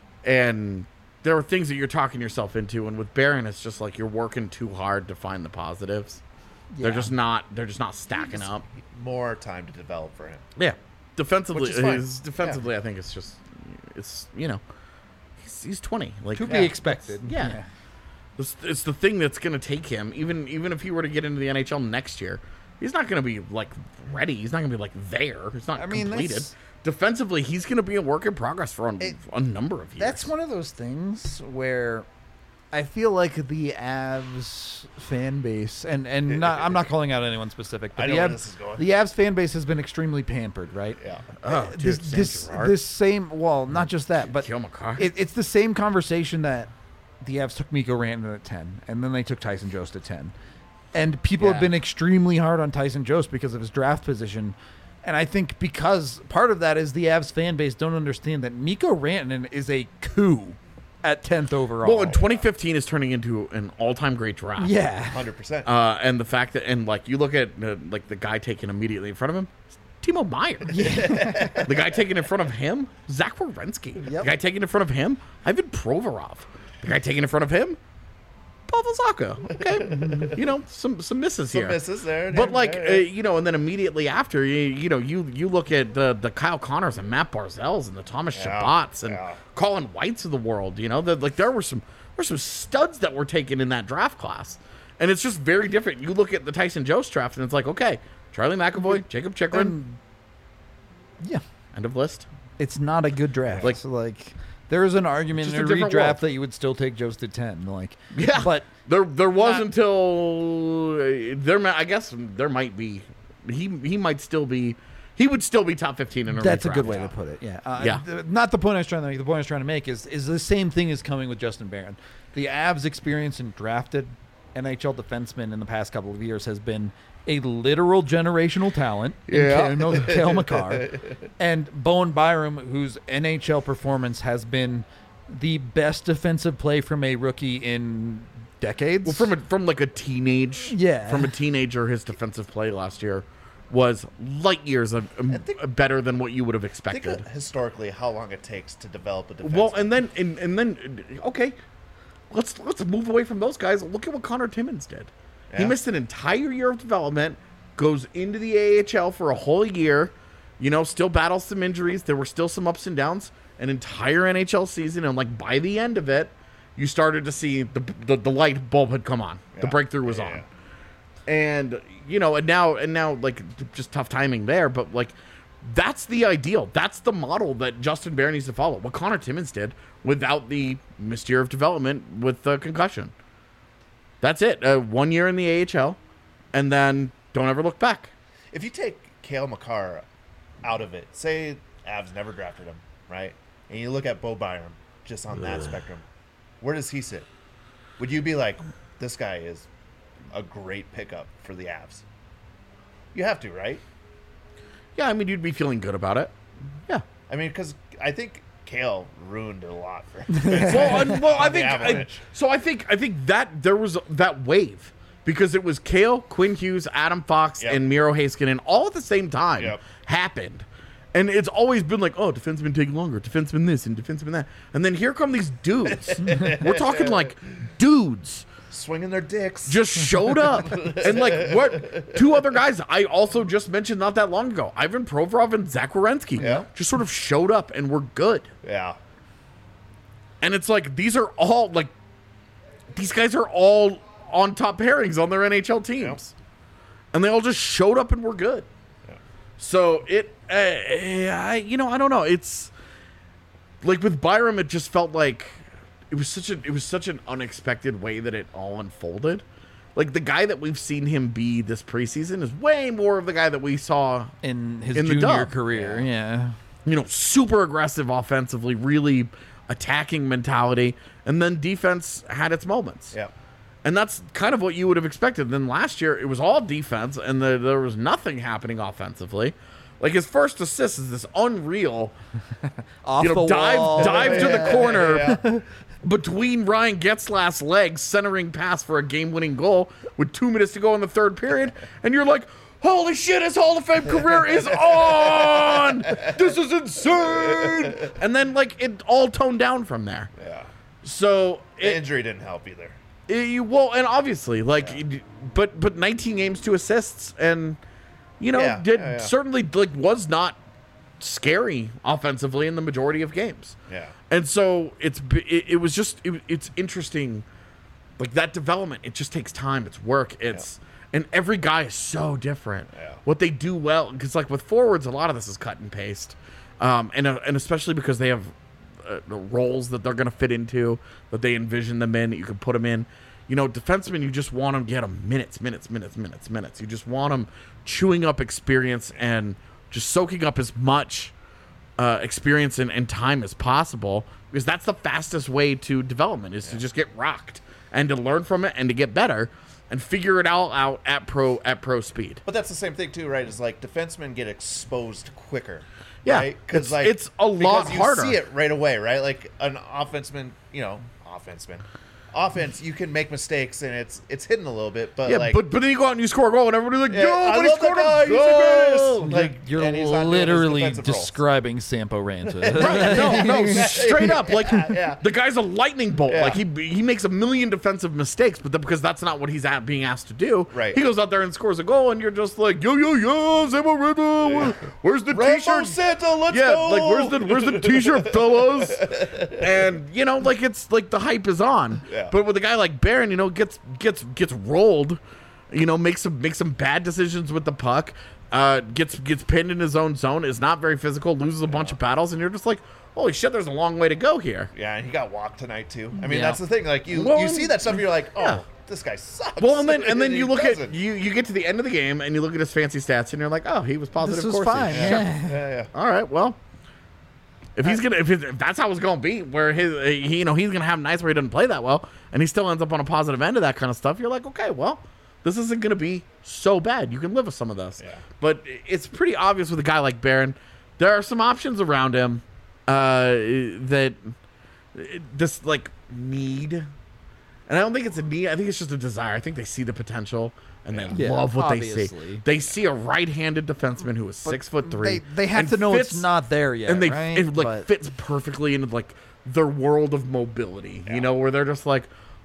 Speaker 3: and there were things that you're talking yourself into, and with Barron, it's just like you're working too hard to find the positives. They're
Speaker 2: Yeah.
Speaker 3: just not they're just not stacking up.
Speaker 5: More time to develop for him.
Speaker 3: Yeah, defensively,
Speaker 5: Which is fine.
Speaker 3: his- defensively, I think it's just it's you know he's, he's twenty, like
Speaker 2: to
Speaker 5: Yeah.
Speaker 2: be expected.
Speaker 3: yeah. It's, it's the thing that's going to take him. Even even if he were to get into the N H L next year, he's not going to be like ready. He's not going to be like there. It's not
Speaker 2: I mean,
Speaker 3: completed.
Speaker 2: that's-
Speaker 3: Defensively, he's going to be a work in progress for a,
Speaker 2: It-
Speaker 3: a number of years.
Speaker 2: That's one of those things where I feel like the Avs fan base, and, and not, I'm not calling out anyone specific, but
Speaker 5: I
Speaker 2: the,
Speaker 5: know where
Speaker 2: Avs,
Speaker 5: this is going.
Speaker 2: the Avs fan base has been extremely pampered, right?
Speaker 5: Yeah.
Speaker 3: Oh, dude,
Speaker 2: this
Speaker 3: Sam
Speaker 2: this,
Speaker 3: Girard.
Speaker 2: this same, well, not just that, but
Speaker 3: Kill McCarr.
Speaker 2: it, it's the same conversation that the Avs took Mikko Rantanen at ten, and then they took Tyson Jost at ten. And people have
Speaker 5: Yeah.
Speaker 2: been extremely hard on Tyson Jost because of his draft position. And I think because part of that is the Avs fan base don't understand that Mikko Rantanen is a coup at tenth overall.
Speaker 3: well, in twenty fifteen is turning into an all-time great draft.
Speaker 2: yeah.
Speaker 5: one hundred percent.
Speaker 3: Uh, and the fact that, and like you look at uh, like the guy taken immediately in front of him, it's Timo Meyer. the guy taken in front of him, Zach Werenski.
Speaker 2: Yep.
Speaker 3: The guy taken in front of him, Ivan Provorov. The guy taken in front of him, Pavel Zacha. Okay, you know some some misses
Speaker 5: Some
Speaker 3: here.
Speaker 5: misses there.
Speaker 3: But
Speaker 5: yeah,
Speaker 3: like
Speaker 5: yeah,
Speaker 3: uh,
Speaker 5: yeah.
Speaker 3: you know, and then immediately after, you, you know, you you look at the the Kyle Connors and Matt Barzels and the Thomas
Speaker 5: Yeah,
Speaker 3: Shabbats and
Speaker 5: yeah.
Speaker 3: Colin Whites of the world. You know, that like there were some there were some studs that were taken in that draft class, and it's just very different. You look at the Tyson Jost draft, and it's like, okay, Charlie McAvoy, Jacob Chikrin,
Speaker 2: And, yeah.
Speaker 3: end of list.
Speaker 2: It's not a good draft.
Speaker 3: Like-
Speaker 2: Like, like there is an argument
Speaker 3: Just
Speaker 2: in
Speaker 3: a
Speaker 2: a
Speaker 3: different
Speaker 2: redraft
Speaker 3: world.
Speaker 2: that you would still take Jost at ten. Like,
Speaker 3: Yeah,
Speaker 2: but
Speaker 3: there there was
Speaker 2: not-
Speaker 3: until uh, there. mi- I guess there might be. He he might still be. He would still be top fifteen in a
Speaker 2: that's a
Speaker 3: redraft.
Speaker 2: good way to put it. Yeah. Uh,
Speaker 3: Yeah.
Speaker 2: th- not the point I was trying to make. The point I was trying to make is is the same thing is coming with Justin Barron. The Avs' experience in drafted N H L defensemen in the past couple of years has been a literal generational talent in
Speaker 3: Yeah.
Speaker 2: Ka- no, Cale Makar and Bowen Byram, whose N H L performance has been the best defensive play from a rookie in decades.
Speaker 3: Well, from a, from like a teenage,
Speaker 2: Yeah.
Speaker 3: from a teenager, his defensive play last year was light years of, um,
Speaker 5: think-
Speaker 3: better than what you would have
Speaker 5: Think
Speaker 3: expected.
Speaker 5: of historically how long it takes to develop a defense.
Speaker 3: Well, and then and, and then okay, let's let's move away from those guys. Look at what Connor Timmins did. He
Speaker 5: Yeah.
Speaker 3: missed an entire year of development, goes into the A H L for a whole year, you know, still battles some injuries. There were still some ups and downs. An entire N H L season, and like by the end of it, you started to see the the, the light bulb had come on. The
Speaker 5: Yeah.
Speaker 3: breakthrough was
Speaker 5: Yeah,
Speaker 3: on.
Speaker 5: yeah.
Speaker 3: And you know, and now and now like just tough timing there, but like that's the ideal. That's the model that Justin Barron needs to follow. What Connor Timmins did without the missed year of development with the concussion. That's it. Uh, one year in the A H L, and then don't ever look back.
Speaker 5: If you take Cale Makar out of it, say Avs never drafted him, right? And you look at Bo Byram just on that spectrum, where does he sit? Would you be like, this guy is a great pickup for the Avs? You have to, right?
Speaker 3: Yeah, I mean you'd be feeling good about it. Yeah.
Speaker 5: I mean, because I think Cale ruined it a lot for
Speaker 3: well, and, well, I
Speaker 5: on the
Speaker 3: think I,
Speaker 5: Avalanche.
Speaker 3: so. I think I think that there was that wave because it was Kale, Quinn Hughes, Adam Fox,
Speaker 5: Yep.
Speaker 3: and Miro Heiskanen all at the same time
Speaker 5: Yep.
Speaker 3: happened. And it's always been like, oh, defensemen take longer, defenseman this and defenseman that. And then here come these dudes. We're talking like dudes
Speaker 5: Swinging their dicks.
Speaker 3: just showed up. And like what two other guys I also just mentioned not that long ago, Ivan Provorov and Zach Werenski,
Speaker 5: Yeah.
Speaker 3: just sort of showed up and were good.
Speaker 5: Yeah.
Speaker 3: And it's like these are all like these guys are all on top pairings on their N H L teams. And they all just showed up and were good.
Speaker 5: Yeah.
Speaker 3: So it uh, I you know, I don't know. It's like with Byram it just felt like it was such a it was such an unexpected way that it all unfolded. Like the guy that we've seen him be this preseason is way more of the guy that we saw
Speaker 2: in his
Speaker 3: In the
Speaker 2: junior
Speaker 3: dub.
Speaker 2: career. Yeah.
Speaker 3: you know, super aggressive offensively, really attacking mentality, and then defense had its moments.
Speaker 5: Yeah.
Speaker 3: And that's kind of what you would have expected. Then last year, it was all defense, and the, there was nothing happening offensively. Like his first assist is this unreal,
Speaker 2: Off
Speaker 3: you know,
Speaker 2: the
Speaker 3: dive
Speaker 2: wall.
Speaker 3: dive to the corner
Speaker 5: Yeah.
Speaker 3: between Ryan Getzlaff's legs, centering pass for a game-winning goal with two minutes to go in the third period, and you're like, holy shit, his Hall of Fame career is on! This is insane! And then, like, it all toned down from there.
Speaker 5: Yeah.
Speaker 3: So,
Speaker 5: The
Speaker 3: it,
Speaker 5: injury didn't help either.
Speaker 3: it- you well, and obviously, like, it- but but nineteen games, two assists, and, you know,
Speaker 5: Yeah,
Speaker 3: did
Speaker 5: yeah, yeah.
Speaker 3: certainly, like, was not scary offensively in the majority of games.
Speaker 5: Yeah.
Speaker 3: And so it's it, it was just it, it's interesting, like that development. It just takes time. It's work. It's and every guy is so different.
Speaker 5: Yeah.
Speaker 3: What they do well, because like with forwards, a lot of this is cut and paste, um, and uh, and especially because they have uh, the roles that they're going to fit into, that they envision them in, that you can put them in. You know, defensemen, you just want them to get them minutes, minutes, minutes, minutes, minutes. You just want them chewing up experience and just soaking up as much uh, experience and, and time as possible, because that's the fastest way to development is to just get rocked and to learn from it and to get better and figure it all out at pro at pro speed.
Speaker 5: But that's the same thing too, right? Is like defensemen get exposed quicker.
Speaker 3: Yeah,
Speaker 5: right?
Speaker 3: it's-
Speaker 5: Because like
Speaker 3: it's a lot
Speaker 5: because you
Speaker 3: harder.
Speaker 5: see it right away, right? Like an offenseman, you know, offenseman, offense, you can make mistakes and it's it's hidden a little bit, but
Speaker 3: Yeah,
Speaker 5: like,
Speaker 3: but but then you go out and you score a goal and everybody's like,
Speaker 5: yeah,
Speaker 3: yo,
Speaker 5: I
Speaker 3: but he
Speaker 5: love
Speaker 3: scored
Speaker 5: that guy.
Speaker 3: a
Speaker 5: He's the
Speaker 3: goal.
Speaker 5: greatest. Like,
Speaker 2: You're
Speaker 5: and he's not doing his
Speaker 2: literally
Speaker 5: defensive roles.
Speaker 2: describing Sampo Ranta.
Speaker 3: Right, no, no, straight up. Like
Speaker 5: yeah.
Speaker 3: the guy's a lightning bolt.
Speaker 5: Yeah.
Speaker 3: Like he he makes a million defensive mistakes, but then because that's not what he's at being asked to do.
Speaker 5: Right.
Speaker 3: He goes out there and scores a goal, and you're just like, yo yo yo, Zemo Renta, where- where's the
Speaker 5: Rambo
Speaker 3: t-shirt?
Speaker 5: Santa, let's
Speaker 3: yeah,
Speaker 5: go.
Speaker 3: like where's the where's the t-shirt, fellas? And you know, like it's like the hype is on.
Speaker 5: Yeah.
Speaker 3: But with a guy like Barron, you know, gets gets gets rolled, you know, makes some makes some bad decisions with the puck, uh, gets gets pinned in his own zone, is not very physical, loses a bunch of battles, and you're just like, holy shit, there's a long way to go here.
Speaker 5: Yeah, and he got walked tonight too. I mean,
Speaker 2: Yeah.
Speaker 5: that's the thing. Like you,
Speaker 3: Well,
Speaker 5: you see that stuff, and you're like, oh,
Speaker 3: yeah.
Speaker 5: this guy sucks.
Speaker 3: Well, and then and then
Speaker 5: He
Speaker 3: you look
Speaker 5: doesn't.
Speaker 3: at you you get to the end of the game and you look at his fancy stats and you're like, oh, he was positive.
Speaker 2: This was
Speaker 3: Corsi.
Speaker 2: fine.
Speaker 3: Sure.
Speaker 2: Yeah.
Speaker 5: Yeah, yeah.
Speaker 3: All right, well, if he's gonna if, his, if that's how it's gonna be, where his he, you know he's gonna have nights where he doesn't play that well, and he still ends up on a positive end of that kind of stuff, you're like, okay, well, this isn't gonna be so bad. You can live with some of this.
Speaker 5: Yeah.
Speaker 3: But it's pretty obvious with a guy like Barron, there are some options around him uh, that this like need, and I don't think it's a need. I think it's just a desire. I think they see the potential. And they
Speaker 2: Yeah,
Speaker 3: love what they
Speaker 2: obviously.
Speaker 3: see. They see a right-handed defenseman who is six foot three.
Speaker 2: They, they have
Speaker 3: and
Speaker 2: to know
Speaker 3: fits-
Speaker 2: it's not there yet,
Speaker 3: and they
Speaker 2: right?
Speaker 3: it like
Speaker 2: But-
Speaker 3: fits perfectly into like their world of mobility. You know, where they're just like,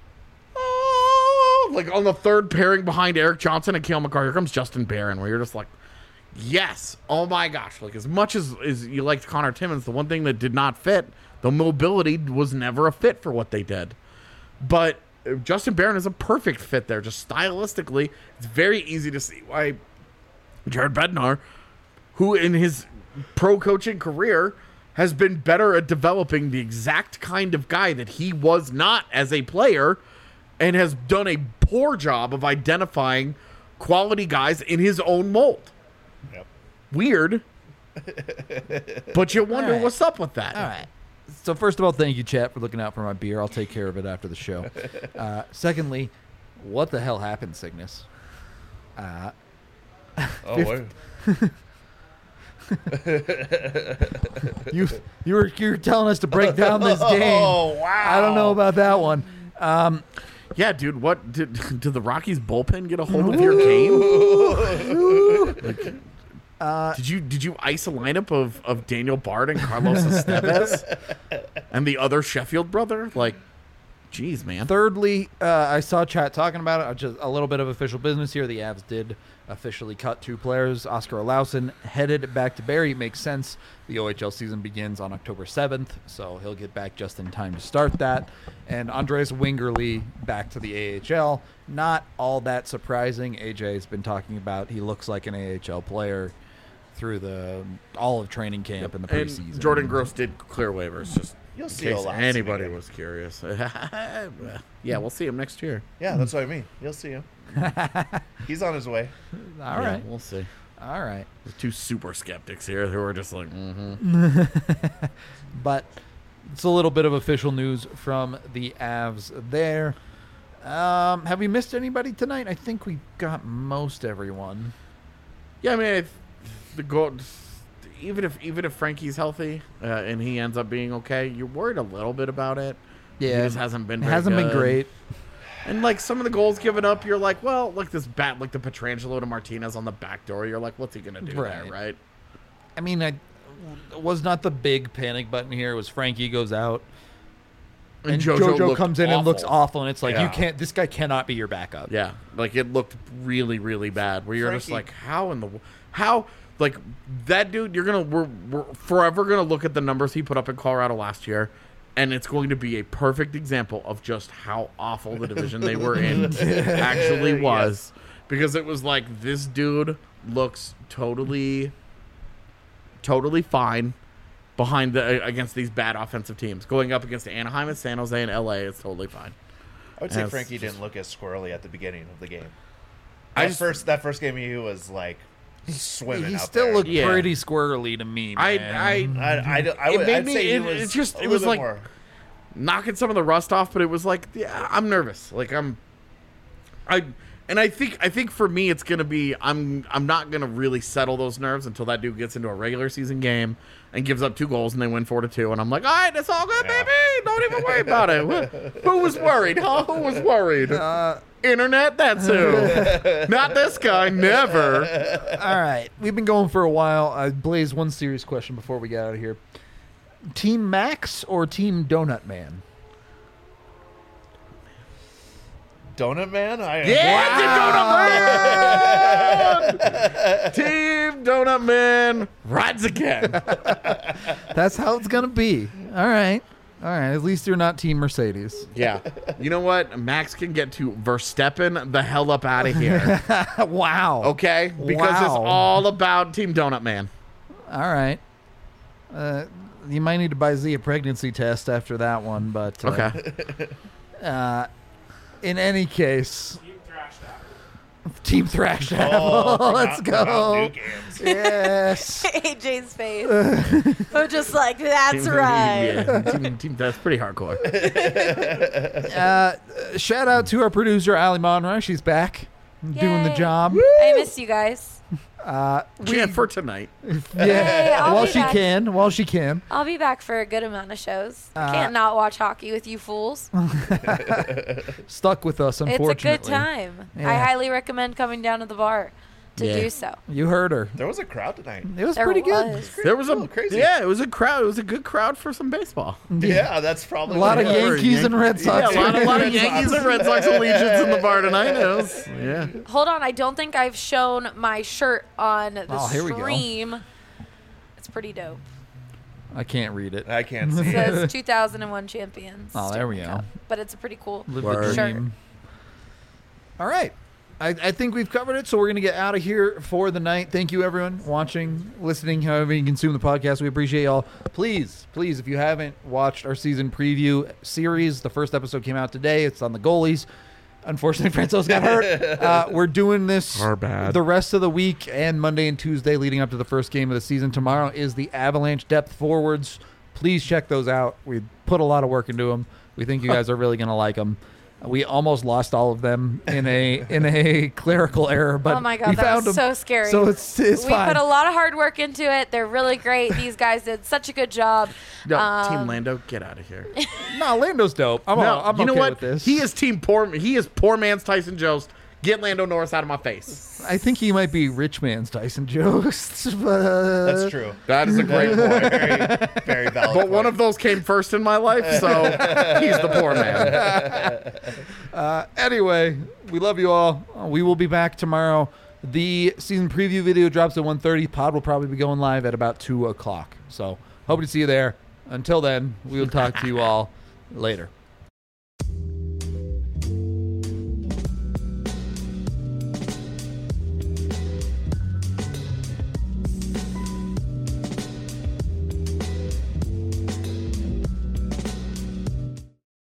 Speaker 3: oh, like on the third pairing behind Eric Johnson and Cale Makar, here comes Justin Barron, where you're just like, yes, oh my gosh. Like as much as, as you liked Connor Timmins, the one thing that did not fit, the mobility was never a fit for what they did. But uh, Justin Barron is a perfect fit there. Just stylistically, it's very easy to see why Jared Bednar, who in his pro coaching career has been better at developing the exact kind of guy that he was not as a player, and has done a poor job of identifying quality guys in his own mold.
Speaker 5: Yep.
Speaker 3: Weird. But you wonder
Speaker 2: All right.
Speaker 3: what's up with that.
Speaker 2: All right. So first of all, thank you, chat, for looking out for my beer. I'll take care of it after the show. Uh, secondly, what the hell happened, Cygnus? Uh,
Speaker 5: Oh, wait.
Speaker 2: you you were you were telling us to break down this game.
Speaker 5: Oh, wow.
Speaker 2: I don't know about that one. Um,
Speaker 3: Yeah, dude. What did did the Rockies bullpen get a hold of your game? Like,
Speaker 2: Uh,
Speaker 3: did you did you ice a lineup of, of Daniel Bard and Carlos Estevez and the other Sheffield brother? Like, geez, man.
Speaker 2: Thirdly, uh, I saw chat talking about it. Uh, Just a little bit of official business here. The Avs did officially cut two players. Oscar Olausen headed back to Barrie. It makes sense. The O H L season begins on October seventh, so he'll get back just in time to start that. And Andreas Wingerly back to the A H L. Not all that surprising. A J has been talking about he looks like an A H L player through the all of training camp in the
Speaker 3: And
Speaker 2: preseason.
Speaker 3: Jordan Gross did clear waivers, just
Speaker 5: You'll
Speaker 3: in
Speaker 5: see
Speaker 3: case
Speaker 5: Olausen
Speaker 3: anybody
Speaker 5: again.
Speaker 3: was curious. Yeah, we'll see him next year.
Speaker 5: Yeah, that's what I mean. You'll see him. He's on his way.
Speaker 2: all
Speaker 3: Yeah,
Speaker 2: right.
Speaker 3: we'll see.
Speaker 2: All right.
Speaker 3: There's two super skeptics here who are just like, mm-hmm.
Speaker 2: But it's a little bit of official news from the Avs there. Um, have we missed anybody tonight? I think we got most everyone.
Speaker 3: Yeah, I mean, if the goal, even if even if Frankie's healthy uh, and he ends up being okay, you're worried a little bit about it.
Speaker 2: Yeah,
Speaker 3: he just hasn't been.
Speaker 2: It
Speaker 3: Very
Speaker 2: hasn't been
Speaker 3: good.
Speaker 2: great.
Speaker 3: And like some of the goals given up, you're like, well, like this bat, like the Petrangelo to Martinez on the back door. You're like, what's he gonna do
Speaker 2: Right.
Speaker 3: there, right?
Speaker 2: I mean, I was not the big panic button here. It was Frankie goes out. And, JoJo,
Speaker 3: looked
Speaker 2: comes in and looks
Speaker 3: awful.
Speaker 2: awful, and it's like you
Speaker 5: Yeah.
Speaker 2: can't. This guy cannot be your backup.
Speaker 3: Yeah, like it looked really, really bad. Where you're just
Speaker 5: Frankie-
Speaker 3: like, how in the w- how like that dude? You're gonna we're, we're forever gonna look at the numbers he put up in Colorado last year, and it's going to be a perfect example of just how awful the division they were in actually was, because it was like this dude looks totally, totally fine behind the against these bad offensive teams. Going up against Anaheim and San Jose and L A, it's totally fine.
Speaker 5: I would say
Speaker 3: Yes.
Speaker 5: Frankie didn't look as squirrely at the beginning of the game.
Speaker 3: I
Speaker 5: That
Speaker 3: just-
Speaker 5: first that first game he was like swimming
Speaker 2: He
Speaker 5: out
Speaker 2: still
Speaker 5: there.
Speaker 2: looked
Speaker 3: Yeah.
Speaker 2: pretty squirrely to me.
Speaker 3: I
Speaker 2: Man.
Speaker 3: I
Speaker 5: I, I, don't- I
Speaker 3: It
Speaker 5: would
Speaker 3: made
Speaker 5: I'd
Speaker 3: me-
Speaker 5: say he
Speaker 3: it-
Speaker 5: was
Speaker 3: it's just-
Speaker 5: a
Speaker 3: it
Speaker 5: little
Speaker 3: was
Speaker 5: bit
Speaker 3: like-
Speaker 5: more.
Speaker 3: knocking some of the rust off, but it was like, yeah, I'm nervous. Like I'm, I, and I think I think for me it's gonna be I'm I'm not gonna really settle those nerves until that dude gets into a regular season game and gives up two goals and they win four to two, and I'm like, all right, it's all good,
Speaker 5: Yeah.
Speaker 3: baby. Don't even worry about it. Who, who was worried? Huh? Who was worried?
Speaker 2: Uh,
Speaker 3: Internet. That's who. Not this guy. Never.
Speaker 2: all right, we've been going for a while. I Blaze, one serious question before we get out of here: Team Max or Team Donut Man?
Speaker 5: Donut Man? I,
Speaker 3: Yeah, Team Donut Man. Team Donut Man rides again.
Speaker 2: That's how it's gonna be. All right, all right. At least you're not Team Mercedes.
Speaker 3: Yeah. You know what? Max can get to Verstappen the hell up out of here.
Speaker 2: Wow.
Speaker 3: Okay? Because it's
Speaker 2: Wow.
Speaker 3: all about Team Donut Man.
Speaker 2: All right. Uh, you might need to buy Z a pregnancy test after that one, but uh,
Speaker 3: Okay.
Speaker 2: Uh, in any case, Team Thrash Apple.
Speaker 5: Oh, from
Speaker 2: Let's
Speaker 5: Mount- from Mount
Speaker 2: go.
Speaker 5: New Games.
Speaker 2: Yes.
Speaker 4: A J's face. I'm just like, that's right.
Speaker 3: Yeah. Team, team, that's pretty hardcore.
Speaker 2: Uh, shout out to our producer Ali Monroy. She's back, doing the
Speaker 4: Yay.
Speaker 2: job.
Speaker 4: I missed you guys.
Speaker 2: Uh, we,
Speaker 3: Yeah, for tonight.
Speaker 2: yeah.
Speaker 4: Hey, I'll
Speaker 2: while
Speaker 4: be
Speaker 2: she
Speaker 4: back.
Speaker 2: can, while she can.
Speaker 4: I'll be back for a good amount of shows.
Speaker 2: Uh,
Speaker 4: Can't not watch hockey with you fools.
Speaker 2: Stuck with us,
Speaker 4: It's a
Speaker 2: unfortunately.
Speaker 4: good time. I
Speaker 2: Yeah.
Speaker 4: highly recommend coming down to the bar to
Speaker 3: Yeah.
Speaker 4: do so.
Speaker 2: You heard her.
Speaker 5: There was a crowd tonight.
Speaker 2: It was
Speaker 4: There
Speaker 2: pretty good.
Speaker 4: was.
Speaker 3: There was a
Speaker 5: Cool, crazy.
Speaker 3: Yeah, it was a crowd. It was a good crowd for some baseball.
Speaker 5: Yeah, that's probably
Speaker 2: A lot of
Speaker 5: what it was.
Speaker 2: Yankees and Red Sox.
Speaker 3: Yeah, a lot, a lot of
Speaker 5: Red Sox.
Speaker 3: Yankees and Red Sox allegiance in the bar tonight. It was, yeah.
Speaker 4: Hold on, I don't think I've shown my shirt on the
Speaker 2: Oh, here we go.
Speaker 4: stream. It's pretty dope.
Speaker 2: I can't read it.
Speaker 5: I can't
Speaker 4: It
Speaker 5: see it.
Speaker 4: says two thousand one champions.
Speaker 2: Oh, there we
Speaker 4: Stanley
Speaker 2: go.
Speaker 4: Cup. But it's a pretty cool
Speaker 2: Live
Speaker 3: Word.
Speaker 2: the
Speaker 4: shirt.
Speaker 2: dream. All right. I, I think we've covered it, so we're going to get out of here for the night. Thank you, everyone, watching, listening, however you consume the podcast. We appreciate y'all. Please, please, if you haven't watched our season preview series, the first episode came out today. It's on the goalies. Unfortunately, Franco's got hurt. Uh, we're doing this
Speaker 3: Our bad.
Speaker 2: the rest of the week and Monday and Tuesday leading up to the first game of the season. Tomorrow is the Avalanche Depth Forwards. Please check those out. We put a lot of work into them. We think you guys are really going to like them. We almost lost all of them in a in a clerical error, but
Speaker 4: oh my god,
Speaker 2: we
Speaker 4: that
Speaker 2: found
Speaker 4: was
Speaker 2: them.
Speaker 4: so scary.
Speaker 2: So it's it's
Speaker 4: we
Speaker 2: fine.
Speaker 4: put a lot of hard work into it. They're really great. These guys did such a good job.
Speaker 3: No,
Speaker 4: Um,
Speaker 3: Team Lando, get out of here.
Speaker 2: No, Lando's dope. I'm,
Speaker 3: no,
Speaker 2: all, I'm
Speaker 3: you know
Speaker 2: okay
Speaker 3: what?
Speaker 2: with this.
Speaker 3: He is team poor. He is poor man's Tyson Jost. Get Lando Norris out of my face.
Speaker 2: I think he might be rich man's Tyson Jost. But, uh,
Speaker 5: That's true.
Speaker 3: That is a great point.
Speaker 5: Very, very valid.
Speaker 3: But one
Speaker 5: point.
Speaker 3: of those came first in my life, so he's the poor man.
Speaker 2: Uh, anyway, we love you all. Uh, we will be back tomorrow. The season preview video drops at one thirty. Pod will probably be going live at about two o'clock. So hope to see you there. Until then, we will talk to you all later.